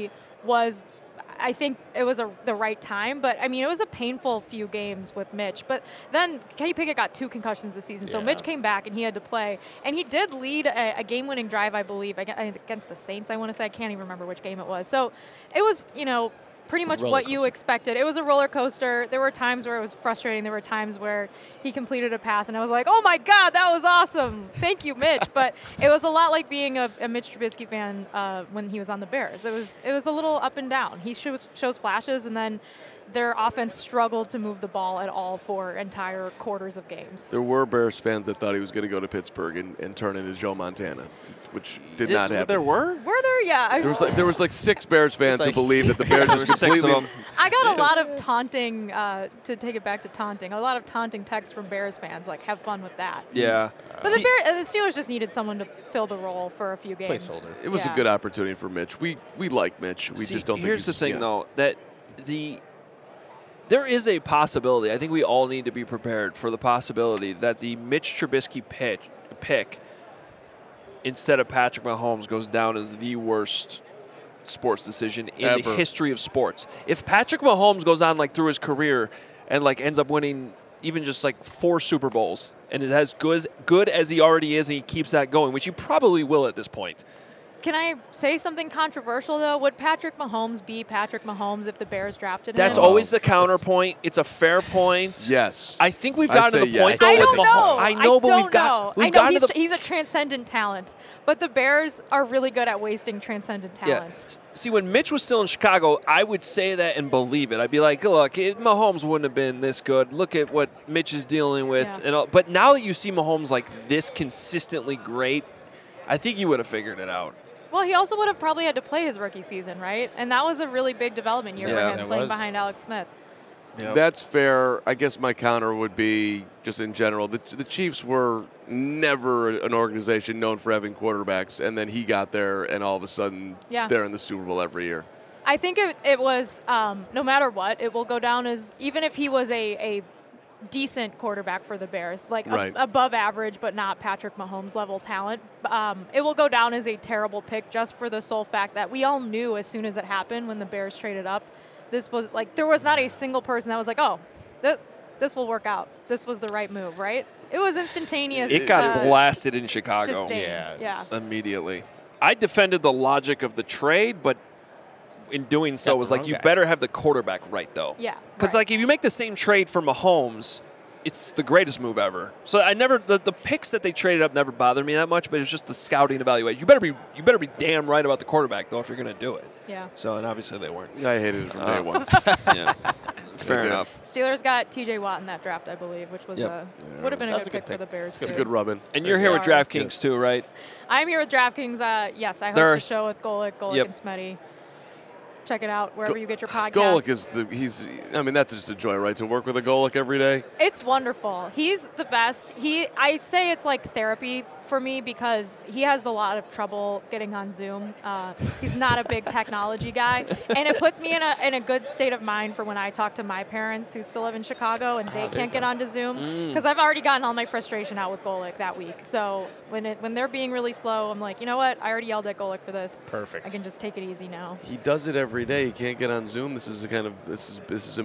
I think it was the right time, but I mean, it was a painful few games with Mitch. But then Kenny Pickett got 2 concussions this season, so Mitch came back and he had to play. And he did lead a game-winning drive, I believe, against the Saints, I want to say. I can't even remember which game it was. So it was, pretty much what you expected. It was a roller coaster. There were times where it was frustrating. There were times where he completed a pass, and I was like, oh, my God, that was awesome. Thank you, Mitch. But it was a lot like being a Mitch Trubisky fan when he was on the Bears. It was a little up and down. He shows flashes, and then their offense struggled to move the ball at all for entire quarters of games. There were Bears fans that thought he was going to go to Pittsburgh and turn into Joe Montana, which did not happen. There were? Were there? Yeah. There was like 6 Bears fans who believed that the Bears just completely. I got a lot of taunting, to take it back to taunting, a lot of taunting texts from Bears fans, like, have fun with that. Yeah. But the Steelers just needed someone to fill the role for a few games. Placeholder. It was a good opportunity for Mitch. We like Mitch. We just don't think here's the thing, though, that there is a possibility. I think we all need to be prepared for the possibility that the Mitch Trubisky pick instead of Patrick Mahomes goes down as the worst sports decision in the history of sports. If Patrick Mahomes goes on like through his career and like ends up winning even just like 4 Super Bowls and is as good as he already is and he keeps that going, which he probably will at this point. Can I say something controversial, though? Would Patrick Mahomes be Patrick Mahomes if the Bears drafted him? That's always the counterpoint. It's a fair point. Yes. I think we've gotten to the point, though, I with don't know. Mahomes. I know, but we've gotten to the... He's a transcendent talent, but the Bears are really good at wasting transcendent talents. Yeah. See, when Mitch was still in Chicago, I would say that and believe it. I'd be like, look, Mahomes wouldn't have been this good. Look at what Mitch is dealing with. Yeah. And all. But now that you see Mahomes like this consistently great, I think you would have figured it out. Well, he also would have probably had to play his rookie season, right? And that was a really big development year for him, playing behind Alex Smith. Yep. That's fair. I guess my counter would be, just in general, the Chiefs were never an organization known for having quarterbacks, and then he got there, and all of a sudden they're in the Super Bowl every year. I think it was, no matter what, it will go down as, even if he was a decent quarterback for the Bears, like above average but not Patrick Mahomes level talent, it will go down as a terrible pick just for the sole fact that we all knew as soon as it happened when the Bears traded up, this was like, there was not a single person that was like, oh, this will work out. This was the right move, right? It was instantaneous. It got blasted in Chicago. Yeah. Immediately. I defended the logic of the trade, but in doing so was like, you better have the quarterback right, though. Yeah. Because like if you make the same trade for Mahomes, it's the greatest move ever. So I never the picks that they traded up never bothered me that much, but it's just the scouting evaluation. You better be damn right about the quarterback though if you're going to do it. Yeah. So and obviously they weren't. I hated it from day one. Yeah. Fair enough. Steelers got T.J. Watt in that draft, I believe, which was would have been a good pick for the Bears. It's a good rub-in. And you're here with DraftKings too, right? I'm here with DraftKings. Yes, I host a show with Golic and Smetty. Check it out wherever you get your podcast. Golic is that's just a joy, right? To work with a Golic every day. It's wonderful. He's the best. I say it's like therapy for me because he has a lot of trouble getting on Zoom. He's not a big technology guy, and it puts me in a good state of mind for when I talk to my parents who still live in Chicago and they can't get onto Zoom because I've already gotten all my frustration out with Golic that week. So when they're being really slow, I'm like, you know what? I already yelled at Golic for this. Perfect. I can just take it easy now. He does it every day. He can't get on Zoom. This is embarrassing. This is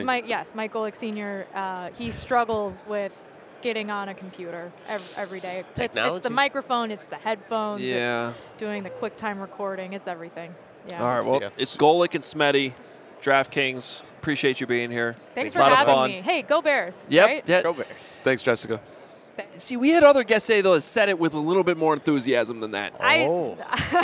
Mike Golic Sr. He struggles with getting on a computer every day. It's the microphone, it's the headphones, it's doing the QuickTime recording, it's everything. Yeah. All right, well, it's Golic and Smetty, DraftKings. Appreciate you being here. Thanks for having me. Hey, go Bears. Yep. Right? Go Bears. Thanks, Jessica. See, we had other guests say, though, said it with a little bit more enthusiasm than that. Wow.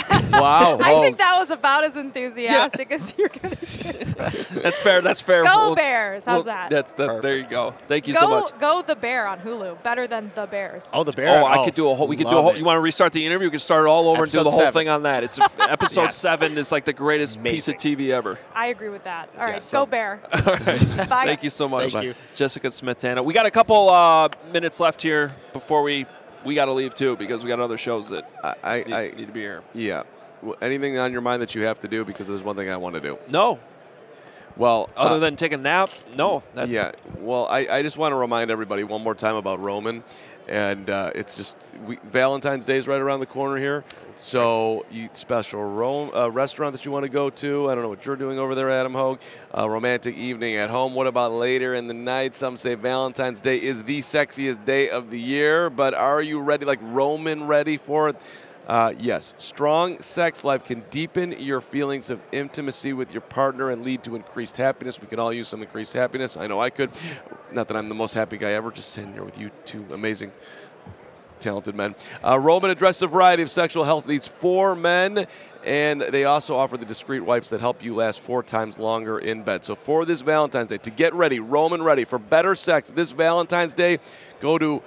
I think that was about as enthusiastic as you're going to say. That's fair. That's fair. Go Bears. How's that? There you go. Thank you so much. Go The Bear on Hulu. Better than The Bears. Oh, The Bear. I could do a whole. We could do a whole. You want to restart the interview? We could start it all over and do the whole 7. thing on that. It's episode 7 is like the greatest piece of TV ever. I agree with that. All right, go Bear. All right. Bye. Thank you so much. Thank you. Jessica Smetana. We got a couple minutes left here before we got to leave too because we got other shows that need to be here. Yeah. Well, anything on your mind that you have to do? Because there's one thing I want to do. No. Well, other than take a nap, no. Well, I just want to remind everybody one more time about Roman, and it's just Valentine's Day is right around the corner here. So, special restaurant that you want to go to. I don't know what you're doing over there, Adam Hogue. Romantic evening at home. What about later in the night? Some say Valentine's Day is the sexiest day of the year, but are you ready? Like Roman ready for it? Yes. Strong sex life can deepen your feelings of intimacy with your partner and lead to increased happiness. We can all use some increased happiness. I know I could. Not that I'm the most happy guy ever, just sitting here with you two amazing talented men. Roman addresses a variety of sexual health needs for men, and they also offer the discreet wipes that help you last 4 times longer in bed. So for this Valentine's Day, to get ready, Roman ready for better sex this Valentine's Day, go to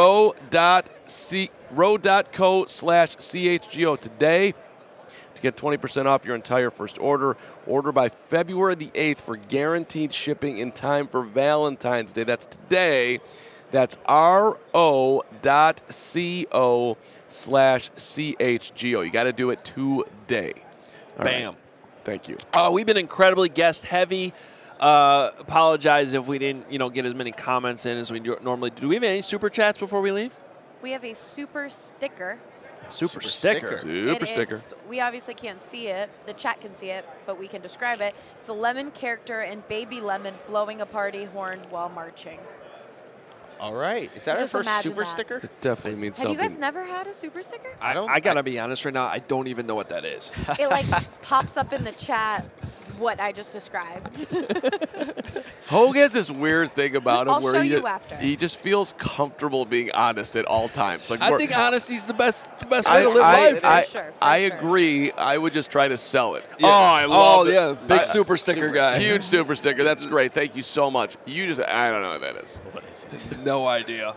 ro.co/CHGO today to get 20% off your entire first order. Order by February the 8th for guaranteed shipping in time for Valentine's Day. That's today. That's ro.co/CHGO. You got to do it today. All Bam. right. Thank you. We've been incredibly guest heavy. Apologize if we didn't, get as many comments in as we normally do. Do we have any super chats before we leave? We have a super sticker. Super sticker. Super sticker. We obviously can't see it. The chat can see it, but we can describe it. It's a lemon character and baby lemon blowing a party horn while marching. All right. Is that our first super sticker? It definitely means Have something. you guys never had a super sticker? I got to be honest right now. I don't even know what that is. It pops up in the chat what I just described. Hogue has this weird thing about him I'll where show you after. he just feels comfortable being honest at all times. I think honesty's the best way to live life. I agree. I would just try to sell it. Yeah. Oh, I love it. Yeah, big super sticker guy. Huge super sticker. That's great. Thank you so much. I don't know what that is. No idea.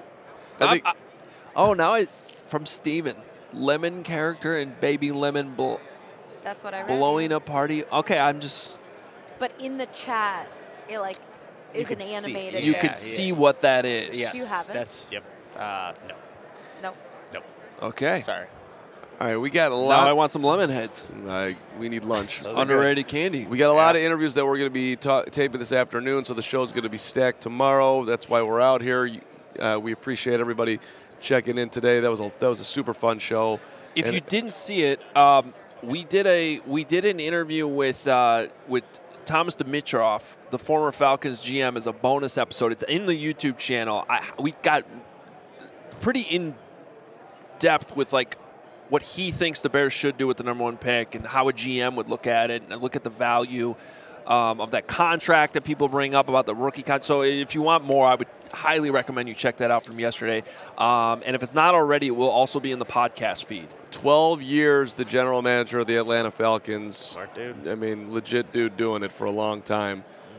From Steven. Lemon character and baby lemon That's what I read. blowing a party. Okay, I'm just... But in the chat, it is an animated. You could see what that is. Yes. Do you have it? That's, yep. No. Nope. Nope. Okay. Sorry. All right, we got a lot. Now I want some lemon heads. We need lunch. Underrated candy. We got a lot of interviews that we're going to be taping this afternoon, so the show's going to be stacked tomorrow. That's why we're out here. We appreciate everybody checking in today. That was a super fun show. If you didn't see it, we did an interview with Thomas Dimitrov, the former Falcons GM, as a bonus episode. It's in the YouTube channel. We got pretty in depth with what he thinks the Bears should do with the number 1 pick and how a GM would look at it and look at the value of that contract that people bring up about the rookie contract. So if you want more, I would highly recommend you check that out from yesterday. And if it's not already, it will also be in the podcast feed. 12 years, the general manager of the Atlanta Falcons. Smart dude. I mean, legit dude doing it for a long time.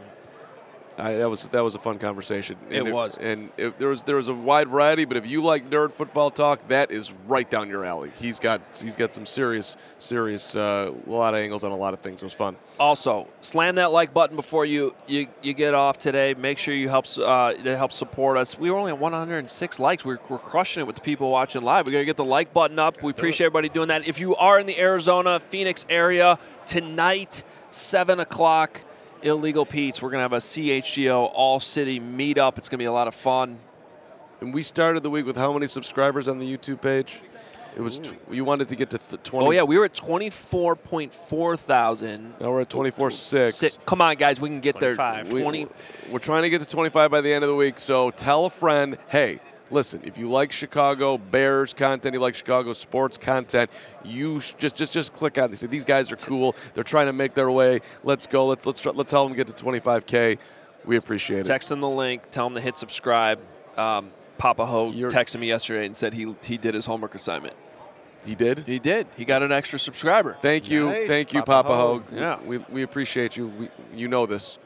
That was a fun conversation. It was. And there was a wide variety, but if you like nerd football talk, that is right down your alley. He's got some serious a lot of angles on a lot of things. It was fun. Also, slam that like button before you get off today. Make sure you help support us. We were only at 106 likes. We're crushing it with the people watching live. We got to get the like button up. We appreciate everybody doing that. If you are in the Arizona, Phoenix area tonight, 7 o'clock, Illegal Pete's. We're going to have a CHGO all-city meetup. It's going to be a lot of fun. And we started the week with how many subscribers on the YouTube page? It was you wanted to get to 20. Oh, yeah. We were at 24.4 thousand. Now we're at 24.6. Come on, guys. We can get 25. there. We're trying to get to 25 by the end of the week. So tell a friend, hey, listen, if you like Chicago Bears content, you like Chicago sports content, you just click on this. These guys are cool. They're trying to make their way. Let's go. Let's help them get to 25K. We appreciate it. Text them the link. Tell them to hit subscribe. Papa Hogue texted me yesterday and said he did his homework assignment. He did? He did. He got an extra subscriber. Thank you. Nice. Thank you, Papa Hogue. Yeah. We appreciate you. You know this.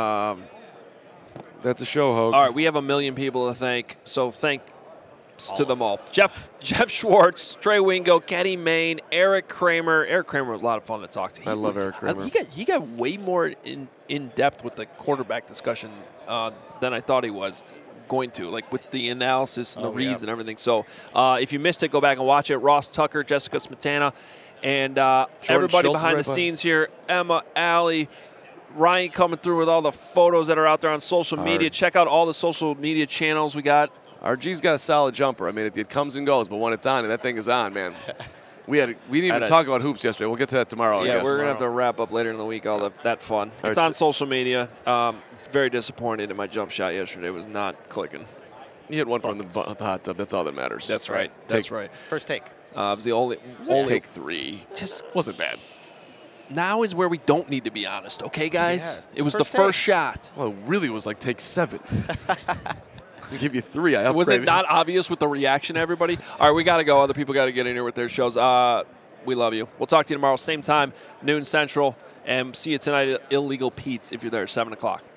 That's a show, Hogue. All right, we have 1 million people to thank, so thanks to them all. Jeff Schwartz, Trey Wingo, Kenny Mayne, Eric Kramer. Eric Kramer was a lot of fun to talk to. I love Eric Kramer. He got way more in depth with the quarterback discussion than I thought he was going to, with the analysis and the reads and everything. So if you missed it, go back and watch it. Ross Tucker, Jessica Smetana, and everybody Schultz behind the scenes here, Emma, Allie, Ryan coming through with all the photos that are out there on social media. Check out all the social media channels we got. RG's got a solid jumper. I mean, it comes and goes, but when it's on, and that thing is on, man. We didn't even talk about hoops yesterday. We'll get to that tomorrow, I guess. We're going to have to wrap up later in the week, all that fun. It's on social media. Very disappointed in my jump shot yesterday. It was not clicking. You hit one from the hot tub. That's all that matters. That's right. That's right. First take. It was the only take 3. Just wasn't bad. Now is where we don't need to be honest, okay, guys? Yeah, it was the first shot. Well, it really was take 7. I give you 3. I upgraded. Was it not obvious with the reaction, everybody? All right, we got to go. Other people got to get in here with their shows. We love you. We'll talk to you tomorrow, same time, noon Central. And see you tonight at Illegal Pete's if you're there, 7 o'clock.